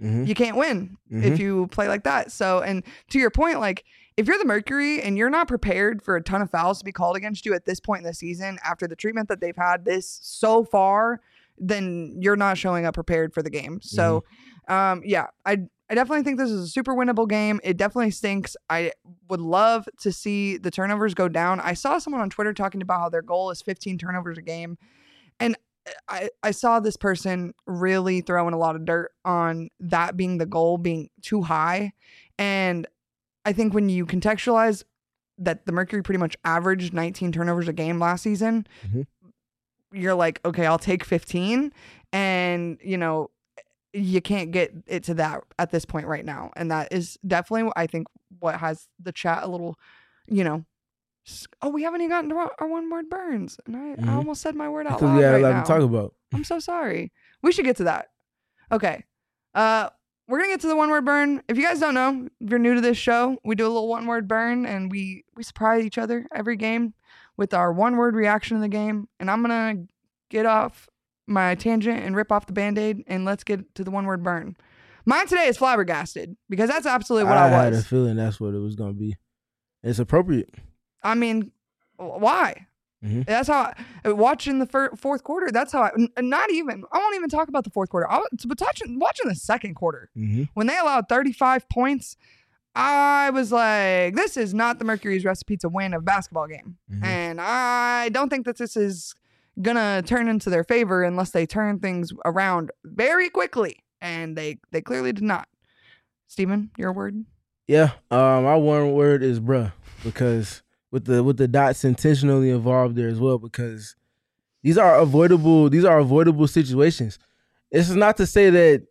you can't win if you play like that. So, and to your point, like if you're the Mercury and you're not prepared for a ton of fouls to be called against you at this point in the season after the treatment that they've had this so far, then you're not showing up prepared for the game. So, yeah, I definitely think this is a super winnable game. It definitely stinks. I would love to see the turnovers go down. I saw someone on Twitter talking about how their goal is 15 turnovers a game. And I saw this person really throwing a lot of dirt on that being the goal being too high. And I think when you contextualize that the Mercury pretty much averaged 19 turnovers a game last season, you're like, okay, I'll take 15. And, you know, you can't get it to that at this point right now. And that is definitely, I think, what has the chat a little, you know, oh, we haven't even gotten to our one word burns. And I almost said my word out loud. Because we had right a lot now. to talk about. I'm so sorry. We should get to that. Okay. We're going to get to the one word burn. If you guys don't know, if you're new to this show, we do a little one word burn and we surprise each other every game with our one word reaction in the game. And I'm going to get off my tangent and rip off the Band-Aid and let's get to the one word burn. Mine today is flabbergasted because that's absolutely what I was. I had a feeling that's what it was going to be. It's appropriate. I mean, why? That's how watching the fourth quarter. That's how I won't even talk about the fourth quarter. Watching the second quarter when they allowed 35 points. I was like, this is not the Mercury's recipe to win a basketball game, and I don't think that this is gonna turn into their favor unless they turn things around very quickly, and they clearly did not. Steven, your word? Yeah, my one word is bruh, because with the dots intentionally involved there as well, because these are avoidable situations. This is not to say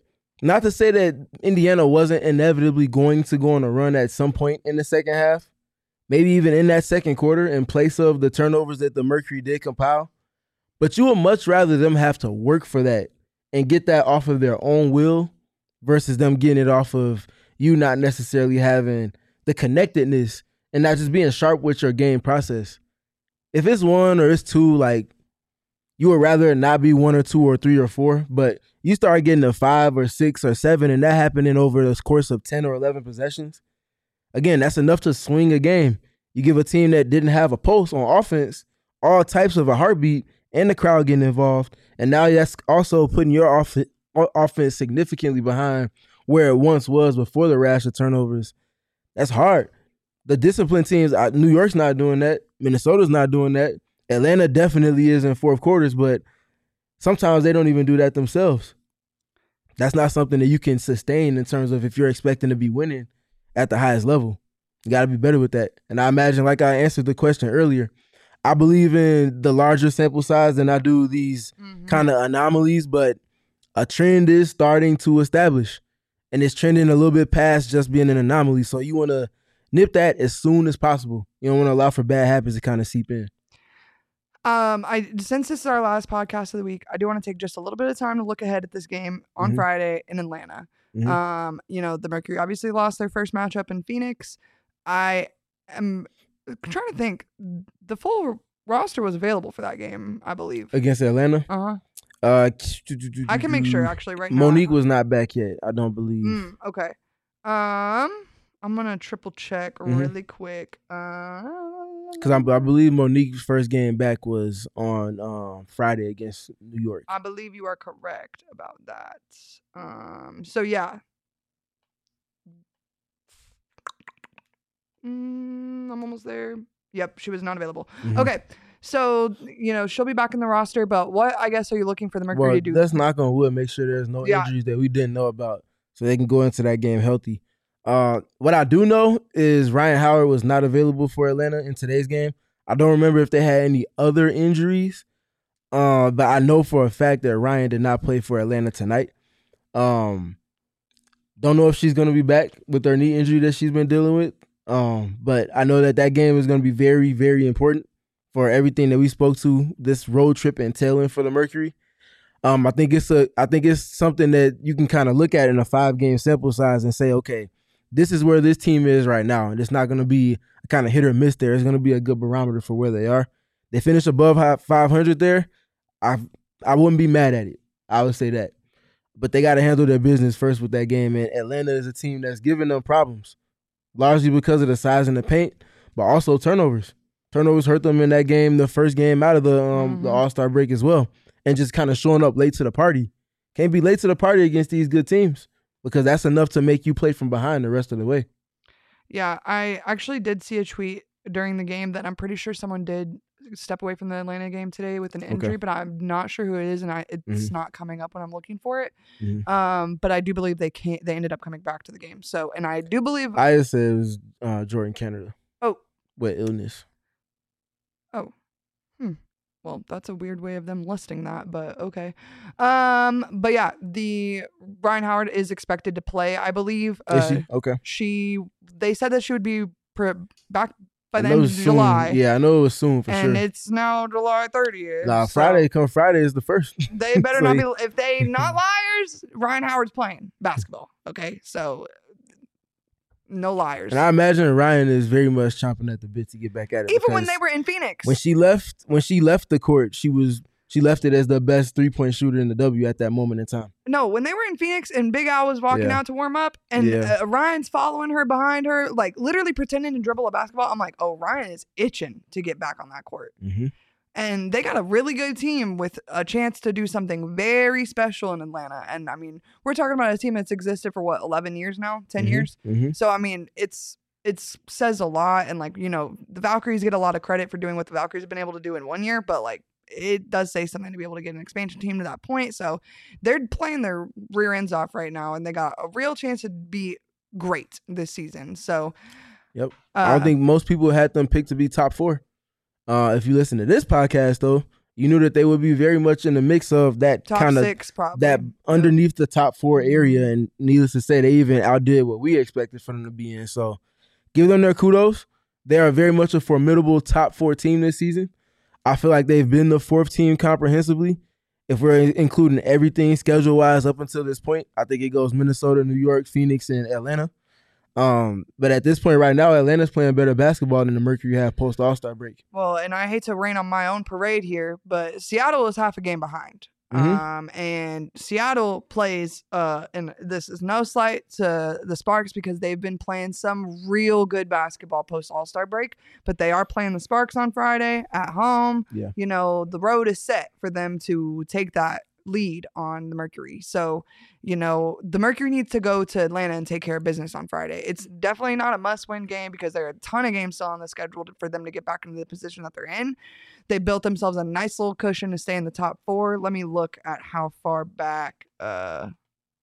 that Indiana wasn't inevitably going to go on a run at some point in the second half, maybe even in that second quarter in place of the turnovers that the Mercury did compile. But you would much rather them have to work for that and get that off of their own will versus them getting it off of you not necessarily having the connectedness and not just being sharp with your game process. If it's one or it's two, like, you would rather not be 1 or 2 or 3 or 4, but you start getting to 5 or 6 or 7 and that happening over the course of 10 or 11 possessions. Again, that's enough to swing a game. You give a team that didn't have a pulse on offense all types of a heartbeat and the crowd getting involved, and now that's also putting your offense significantly behind where it once was before the rash of turnovers. That's hard. The disciplined teams, New York's not doing that. Minnesota's not doing that. Atlanta definitely is in fourth quarters, but sometimes they don't even do that themselves. That's not something that you can sustain in terms of if you're expecting to be winning at the highest level. You got to be better with that. And I imagine, like I answered the question earlier, I believe in the larger sample size than I do these kind of anomalies, but a trend is starting to establish, and it's trending a little bit past just being an anomaly. So you want to nip that as soon as possible. You don't want to allow for bad habits to kind of seep in. Since this is our last podcast of the week, I do want to take just a little bit of time to look ahead at this game on Friday in Atlanta. You know, the Mercury obviously lost their first matchup in Phoenix. I am trying to think. The full roster was available for that game, I believe. Against Atlanta? I can make sure actually right now. Monique was not back yet, I don't believe. Okay. I'm gonna triple check really quick. Because I believe Monique's first game back was on Friday against New York. I believe you are correct about that. So yeah. I'm almost there. Yep, she was not available. Okay. So, you know, she'll be back in the roster, but what, I guess, are you looking for the Mercury to do? Let's knock on wood, make sure there's no injuries that we didn't know about so they can go into that game healthy. What I do know is Ryan Howard was not available for Atlanta in today's game. I don't remember if they had any other injuries, but I know for a fact that Ryan did not play for Atlanta tonight. Don't know if she's going to be back with her knee injury that she's been dealing with, but I know that game is going to be very, very important for everything that we spoke to this road trip entailing for the Mercury. I think it's something that you can kind of look at in a 5-game sample size and say, okay, this is where this team is right now, and it's not going to be a kind of hit or miss there. It's going to be a good barometer for where they are. They finish above 500 there. I wouldn't be mad at it. I would say that. but they got to handle their business first with that game. And Atlanta is a team that's giving them problems, largely because of the size in the paint, but also turnovers. Turnovers hurt them in that game, the first game out of the All-Star break as well, and just kind of showing up late to the party. Can't be late to the party against these good teams because that's enough to make you play from behind the rest of the way. Yeah, I actually did see a tweet during the game that I'm pretty sure someone did step away from the Atlanta game today with an injury, but I'm not sure who it is, and it's not coming up when I'm looking for it. But I do believe they ended up coming back to the game. So, and I do believe I said it was Jordan Canada. Oh, with illness. Oh, well, that's a weird way of them listing that, but okay. But yeah, the Ryan Howard is expected to play, I believe. Is she? Okay. They said that she would be back by the end of July. Yeah, I know it was soon for sure. And it's now July 30th. Nah, Friday is the first. They better not be. If they not liars, Ryan Howard's playing basketball. Okay, so no liars. And I imagine Ryan is very much chomping at the bit to get back at it. Even when they were in Phoenix. When she left the court, she left it as the best 3-point shooter in the W at that moment in time. No, when they were in Phoenix and Big Al was walking out to warm up and Ryan's following her behind her, like literally pretending to dribble a basketball, I'm like, oh, Ryan is itching to get back on that court. And they got a really good team with a chance to do something very special in Atlanta. And I mean, we're talking about a team that's existed for 11 years now, 10 years. So, I mean, it says a lot. And like, the Valkyries get a lot of credit for doing what the Valkyries have been able to do in 1 year, but like, it does say something to be able to get an expansion team to that point. So they're playing their rear ends off right now, and they got a real chance to be great this season. So, yep. I don't think most people had them picked to be top 4. If you listen to this podcast, though, you knew that they would be very much in the mix of that top kind of 6, probably. That underneath the top 4 area. And needless to say, they even outdid what we expected for them to be in. So give them their kudos. They are very much a formidable top 4 team this season. I feel like they've been the 4th team comprehensively. If we're including everything schedule-wise up until this point, I think it goes Minnesota, New York, Phoenix, and Atlanta. But at this point right now, Atlanta's playing better basketball than the Mercury have post All-Star break. Well, and I hate to rain on my own parade here, but Seattle is half a game behind. And Seattle plays, and this is no slight to the Sparks because they've been playing some real good basketball post All-Star break, but they are playing the Sparks on Friday at home. Yeah. The road is set for them to take that lead on the Mercury. So, the Mercury needs to go to Atlanta and take care of business on Friday. It's definitely not a must-win game because there are a ton of games still on the schedule for them to get back into the position that they're in. They built themselves a nice little cushion to stay in the top 4. Let me look at how far back. Hello?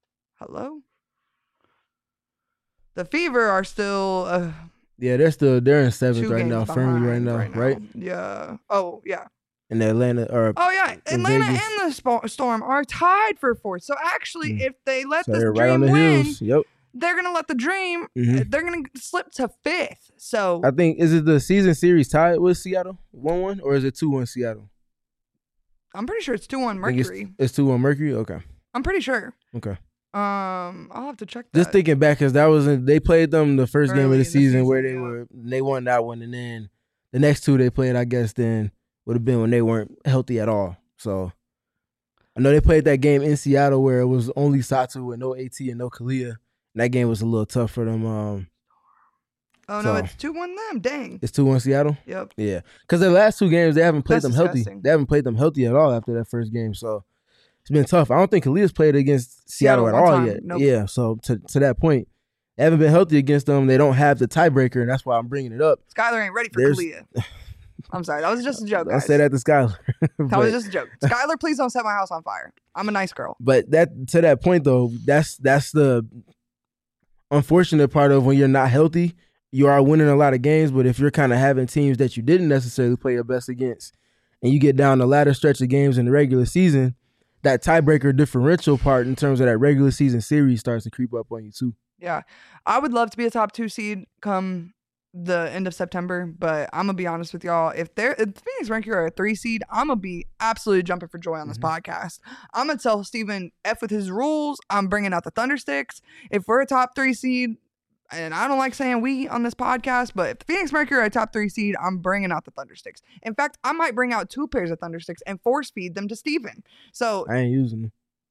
The Fever are still. Yeah, they're in 7th right now, firmly right now, right? Yeah. Oh, yeah. And Atlanta, Atlanta Vegas. and the Storm are tied for 4th. So actually, if they let the they're Dream right on the win, heels. Yep. they're gonna let the Dream. They're gonna slip to 5th. So I think is it the season series tied with Seattle 1-1 or is it 2-1 Seattle? I'm pretty sure it's 2-1 Mercury. It's 2-1 Mercury. Okay. I'm pretty sure. Okay. I'll have to check that. Just thinking back, because they played them the first game of the season where yeah. they won that one, and then the next 2 they played, I guess, then would have been when they weren't healthy at all. So I know they played that game in Seattle where it was only Satu and no AT and no Kalia. And that game was a little tough for them. No, it's 2-1 them. Dang. It's 2-1 Seattle? Yep. Yeah. Because the last 2 games, they haven't played them healthy. Disgusting. They haven't played them healthy at all after that first game. So it's been tough. I don't think Kalia's played against Seattle at all yet. Nope. Yeah. So to that point, they haven't been healthy against them. They don't have the tiebreaker, and that's why I'm bringing it up. Skylar ain't ready for Kalia. I'm sorry. That was just a joke, guys. I said that to Skylar. That was just a joke. Skylar, please don't set my house on fire. I'm a nice girl. But to that point, though, that's the unfortunate part of when you're not healthy. You are winning a lot of games, but if you're kind of having teams that you didn't necessarily play your best against, and you get down the latter stretch of games in the regular season, that tiebreaker differential part in terms of that regular season series starts to creep up on you too. Yeah. I would love to be a top 2 seed come the end of September, but I'm gonna be honest with y'all. If Phoenix Mercury are a 3 seed, I'm gonna be absolutely jumping for joy on this podcast. I'm gonna tell Steven F with his rules. I'm bringing out the Thundersticks. If we're a top 3 seed, and I don't like saying we on this podcast, but if the Phoenix Mercury are a top 3 seed, I'm bringing out the Thundersticks. In fact, I might bring out 2 pairs of Thundersticks and force feed them to Steven. So I ain't using them.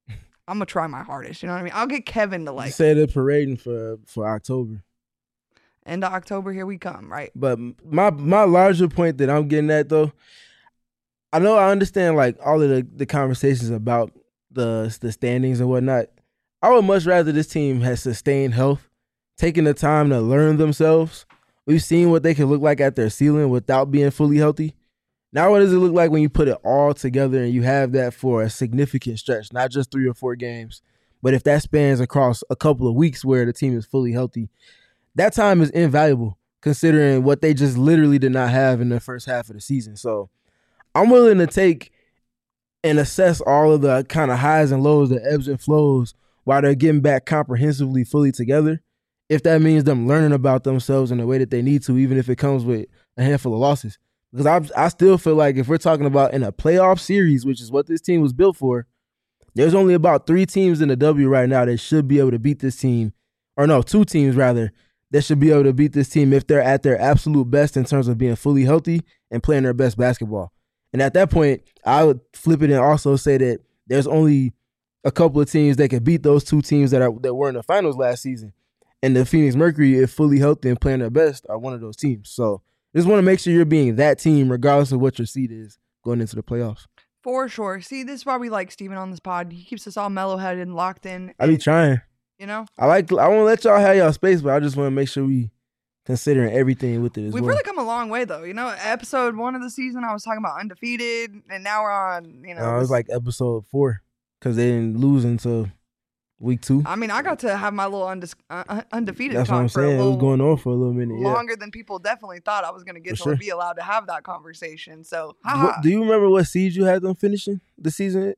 I'm gonna try my hardest. You know what I mean? I'll get Kevin to You like say they're parading for October. end of October. Here we come, right? But my larger point that I'm getting at though, I know I understand like all of the conversations about the standings and whatnot. I would much rather this team has sustained health, taking the time to learn themselves. We've seen what they can look like at their ceiling without being fully healthy. Now what does it look like when you put it all together and you have that for a significant stretch, not just 3 or 4 games, but if that spans across a couple of weeks where the team is fully healthy, that time is invaluable considering what they just literally did not have in the first half of the season. So I'm willing to take and assess all of the kind of highs and lows, the ebbs and flows while they're getting back comprehensively fully together. If that means them learning about themselves in the way that they need to, even if it comes with a handful of losses. Because I still feel like if we're talking about in a playoff series, which is what this team was built for, there's only about 3 teams in the W right now that should be able to beat this team. Or no, 2 teams rather, that should be able to beat this team if they're at their absolute best in terms of being fully healthy and playing their best basketball. And at that point, I would flip it and also say that there's only a couple of teams that could beat those 2 teams that were in the finals last season. And the Phoenix Mercury, if fully healthy and playing their best, are one of those teams. So just want to make sure you're being that team regardless of what your seed is going into the playoffs. For sure. See, this is why we like Steven on this pod. He keeps us all mellow-headed and locked in. I be trying. You know? I want to let y'all have y'all space, but I just want to make sure we considering everything with it as We've well. really come a long way, though. You know, episode 1 of the season, I was talking about undefeated, and now we're on, you know. It was like episode 4 because they didn't lose until week 2. I mean, I got to have my little undefeated That's talk what I'm for a saying. It little was going on for a little minute. longer than people definitely thought I was going to get For to sure. be allowed to have that conversation. So, Do you remember what seed you had them finishing the season?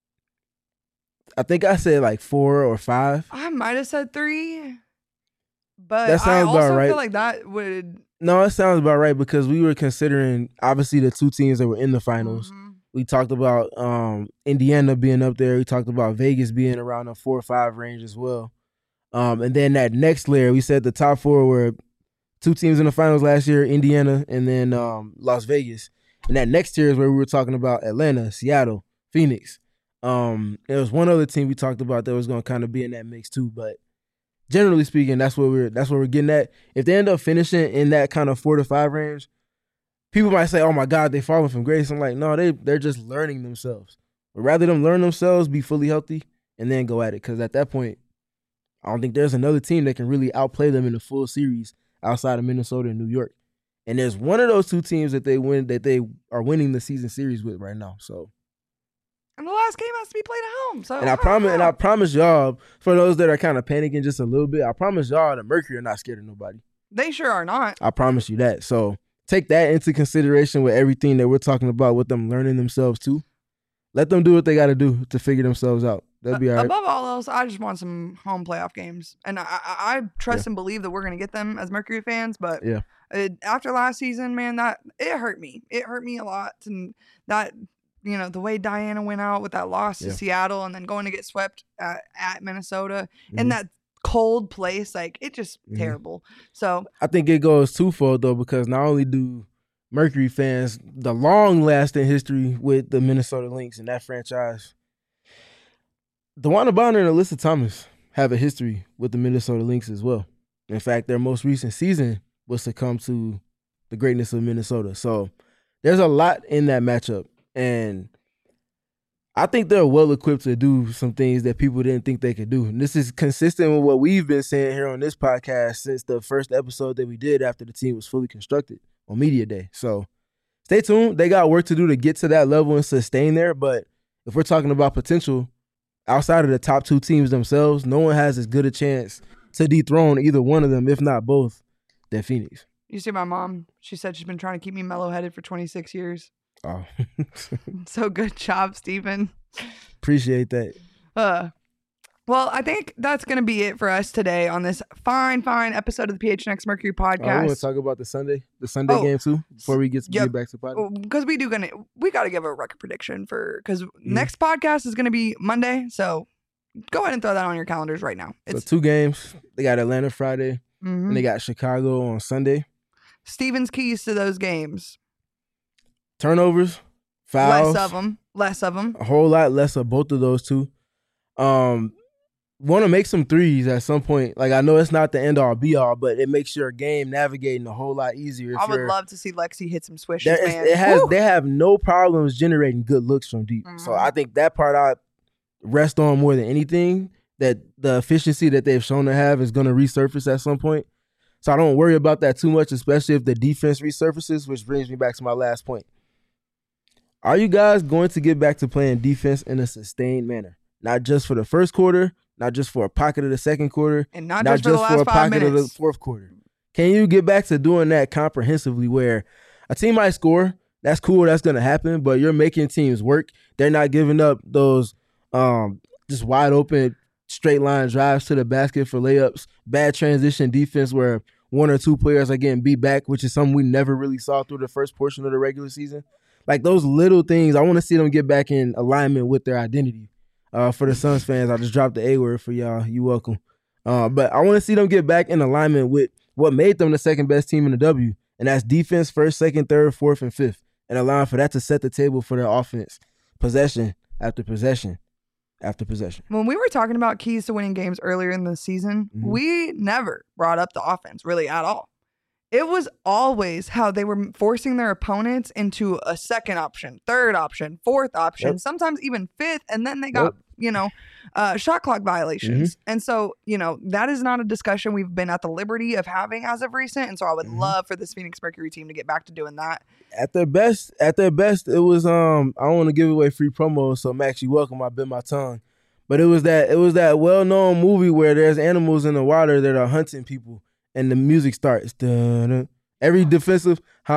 I think I said like 4 or 5. I might have said 3, but That I sounds also about right. feel like that would. No, it sounds about right because we were considering obviously the 2 teams that were in the finals. Mhm. We talked about Indiana being up there. We talked about Vegas being around the 4 or 5 range as well. And then that next layer, we said the top 4 were 2 teams in the finals last year, Indiana and then Las Vegas. And that next tier is where we were talking about Atlanta, Seattle, Phoenix. There was one other team we talked about that was going to kind of be in that mix too. But generally speaking, that's what we're getting at. If they end up finishing in that kind of 4 to 5 range, people might say, "Oh my God, they falling from grace." I'm like, no, they're just learning themselves. But rather them learn themselves, be fully healthy, and then go at it. Because at that point, I don't think there's another team that can really outplay them in the full series outside of Minnesota and New York. And there's one of those 2 teams that they are winning the season series with right now. So, And the last game has to be played at home. So, and I promise y'all, for those that are kind of panicking just a little bit, I promise y'all the Mercury are not scared of nobody. They sure are not. I promise you that. So take that into consideration with everything that we're talking about with them learning themselves too. Let them do what they got to do to figure themselves out. That'll be all right. Above all else, I just want some home playoff games. And I trust and believe that we're going to get them as Mercury fans. But after last season, man, it hurt me. It hurt me a lot. And that, you know, the way Diana went out with that loss to Seattle and then going to get swept at Minnesota in that cold place, like, it just terrible. So I think it goes twofold, though, because not only do Mercury fans the long-lasting history with the Minnesota Lynx and that franchise, DeWanna Bonner and Alyssa Thomas have a history with the Minnesota Lynx as well. In fact, their most recent season was succumb to the greatness of Minnesota. So there's a lot in that matchup. And I think they're well equipped to do some things that people didn't think they could do. And this is consistent with what we've been saying here on this podcast since the first episode that we did after the team was fully constructed on Media Day. So stay tuned. They got work to do to get to that level and sustain there. But if we're talking about potential, outside of the top 2 teams themselves, no one has as good a chance to dethrone either one of them, if not both, than Phoenix. you see my mom, she said she's been trying to keep me mellow-headed for 26 years. Oh. So good job, Steven. Appreciate that. Well, I think that's going to be it for us today on this fine episode of the PHNX Mercury podcast. I want to talk about the Sunday game too before we get back to the podcast. Because we got to give a record prediction because next podcast is going to be Monday. So go ahead and throw that on your calendars right now. So 2 games. They got Atlanta Friday and they got Chicago on Sunday. Steven's keys to those games. Turnovers, fouls. Less of them. A whole lot less of both of those 2. Want to make some threes at some point. Like, I know it's not the end all be all, but it makes your game navigating a whole lot easier. I would love to see Lexi hit some swishes, man. They have no problems generating good looks from deep. So I think that part I rest on more than anything, that the efficiency that they've shown to have is going to resurface at some point. So I don't worry about that too much, especially if the defense resurfaces, which brings me back to my last point. Are you guys going to get back to playing defense in a sustained manner? Not just for the first quarter, not just for a pocket of the second quarter, and not just for the last 5 pocket minutes of the fourth quarter. Can you get back to doing that comprehensively, where a team might score? That's cool. That's going to happen. But you're making teams work. They're not giving up those just wide open straight line drives to the basket for layups. Bad transition defense where one or two players are getting beat back, which is something we never really saw through the first portion of the regular season. Like, those little things, I want to see them get back in alignment with their identity. For the Suns fans, I just dropped the A word for y'all. You welcome. But I want to see them get back in alignment with what made them the second best team in the W, and that's defense first, second, third, fourth, and fifth, and allowing for that to set the table for their offense, possession after possession after possession. When we were talking about keys to winning games earlier in the season, we never brought up the offense really at all. It was always how they were forcing their opponents into a second option, third option, fourth option, sometimes even fifth, and then they got shot clock violations. And so, that is not a discussion we've been at the liberty of having as of recent. And so I would love for this Phoenix Mercury team to get back to doing that. At their best, it was I don't want to give away free promos, so Max, you welcome. I bit my tongue. But it was that well-known movie where there's animals in the water that are hunting people, and the music starts. Dun-dun. Every defensive, I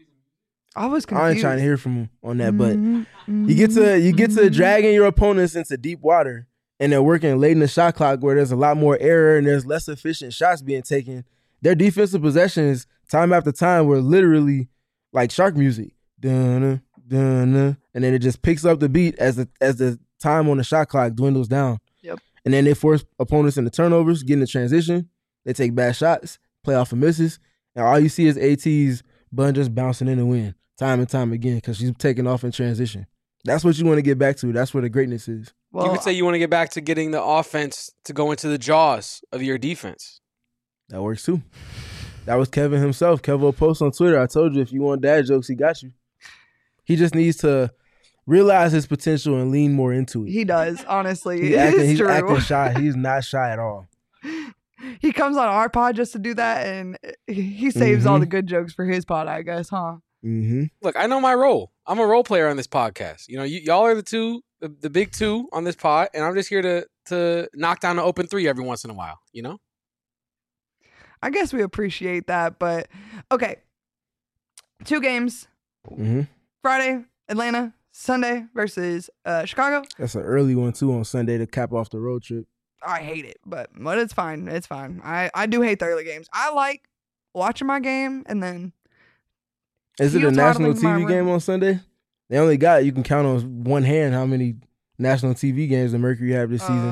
was confused. I ain't trying to hear from him on that, but you get to dragging your opponents into deep water, and they're working late in the shot clock where there's a lot more error and there's less efficient shots being taken. Their defensive possessions, time after time, were literally like shark music. Dun-dun, dun-dun. And then it just picks up the beat as the time on the shot clock dwindles down. Yep. And then they force opponents into turnovers, get in the transition. They take bad shots, play off of misses, and all you see is AT's bun just bouncing in the wind time and time again because she's taking off in transition. That's what you want to get back to. That's where the greatness is. Well, you could say you want to get back to getting the offense to go into the jaws of your defense. That works too. That was Kevin himself. Kevin will post on Twitter. I told you if you want dad jokes, he got you. He just needs to realize his potential and lean more into it. He does, honestly. He's acting shy. He's not shy at all. He comes on our pod just to do that, and he saves all the good jokes for his pod, I guess, huh? Look, I know my role. I'm a role player on this podcast. Y'all are the big two on this pod, and I'm just here to knock down the open three every once in a while, I guess we appreciate that, but okay. 2 games. Friday, Atlanta. Sunday versus Chicago. That's an early one, too, on Sunday to cap off the road trip. I hate it, but it's fine. It's fine. I do hate the early games. I like watching my game and then. Is it a national TV game on Sunday? They only got, you can count on one hand how many national TV games the Mercury have this season.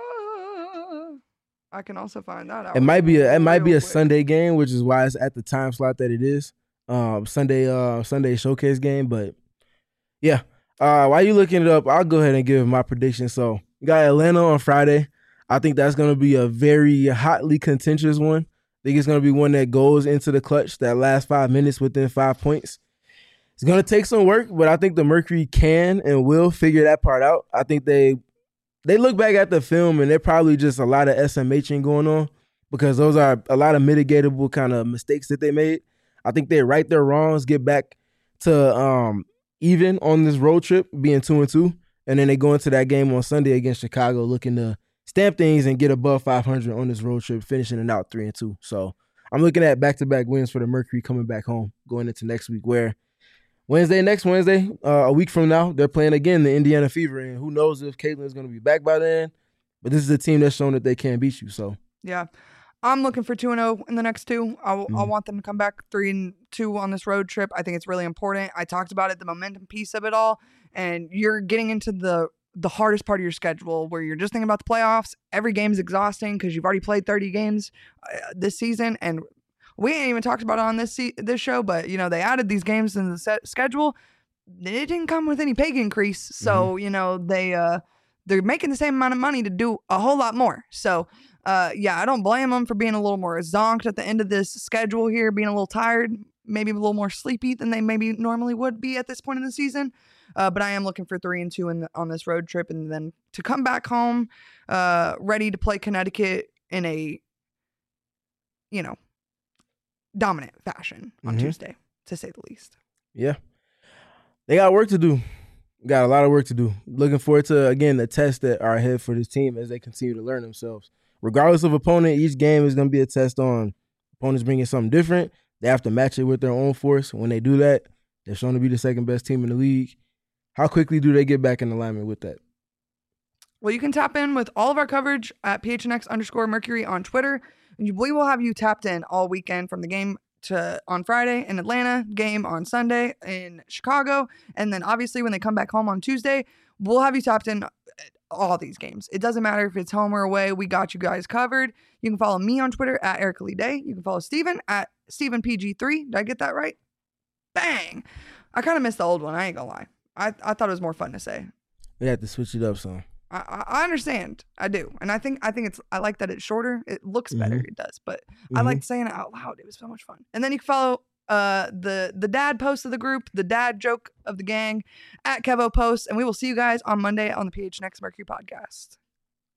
I can also find that out. It might be a Sunday game, which is why it's at the time slot that it is. Sunday showcase game, but yeah. While you looking it up, I'll go ahead and give my prediction. So you got Atlanta on Friday. I think that's going to be a very hotly contentious one. I think it's going to be one that goes into the clutch that last 5 minutes within 5 points. It's going to take some work, but I think the Mercury can and will figure that part out. I think they look back at the film and they're probably just a lot of SMHing going on because those are a lot of mitigatable kind of mistakes that they made. I think they right their wrongs, get back to even on this road trip, being 2-2, and then they go into that game on Sunday against Chicago looking to stamp things and get above 500 on this road trip, finishing it out 3-2. So I'm looking at back-to-back wins for the Mercury coming back home going into next week, where next Wednesday, a week from now, they're playing again the Indiana Fever, and who knows if Caitlin's going to be back by then. But this is a team that's shown that they can beat you. So yeah, I'm looking for 2-0 in the next 2. I want them to come back 3-2 on this road trip. I think it's really important. I talked about it, the momentum piece of it all, and you're getting into the hardest part of your schedule where you're just thinking about the playoffs. Every game is exhausting because you've already played 30 games this season, and we ain't even talked about it on this show, but they added these games in the schedule. It didn't come with any pay increase, so they're making the same amount of money to do a whole lot more. So, yeah, I don't blame them for being a little more zonked at the end of this schedule here, being a little tired, maybe a little more sleepy than they maybe normally would be at this point in the season. But I am looking for 3-2 on this road trip, and then to come back home, ready to play Connecticut in a, dominant fashion on Tuesday, to say the least. Yeah. They got work to do. Got a lot of work to do. Looking forward to, again, the tests that are ahead for this team as they continue to learn themselves. Regardless of opponent, each game is going to be a test on opponents bringing something different. They have to match it with their own force. When they do that, they're shown to be the second best team in the league. How quickly do they get back in alignment with that? Well, you can tap in with all of our coverage at PHNX_Mercury on Twitter. We will have you tapped in all weekend from the game on Friday in Atlanta, game on Sunday in Chicago, and then obviously when they come back home on Tuesday, we'll have you tapped in all these games. It doesn't matter if it's home or away. We got you guys covered. You can follow me on Twitter at Erica Lee Day. You can follow Steven at StevenPG3. Did I get that right? Bang! I kind of missed the old one. I ain't gonna lie. I thought it was more fun to say. We have to switch it up some. I understand. I do. And I think I like that it's shorter. It looks better. It does. But I like saying it out loud. It was so much fun. And then you can follow the dad post of the group, the dad joke of the gang at Kevo Post. And we will see you guys on Monday on the PHNX Mercury podcast.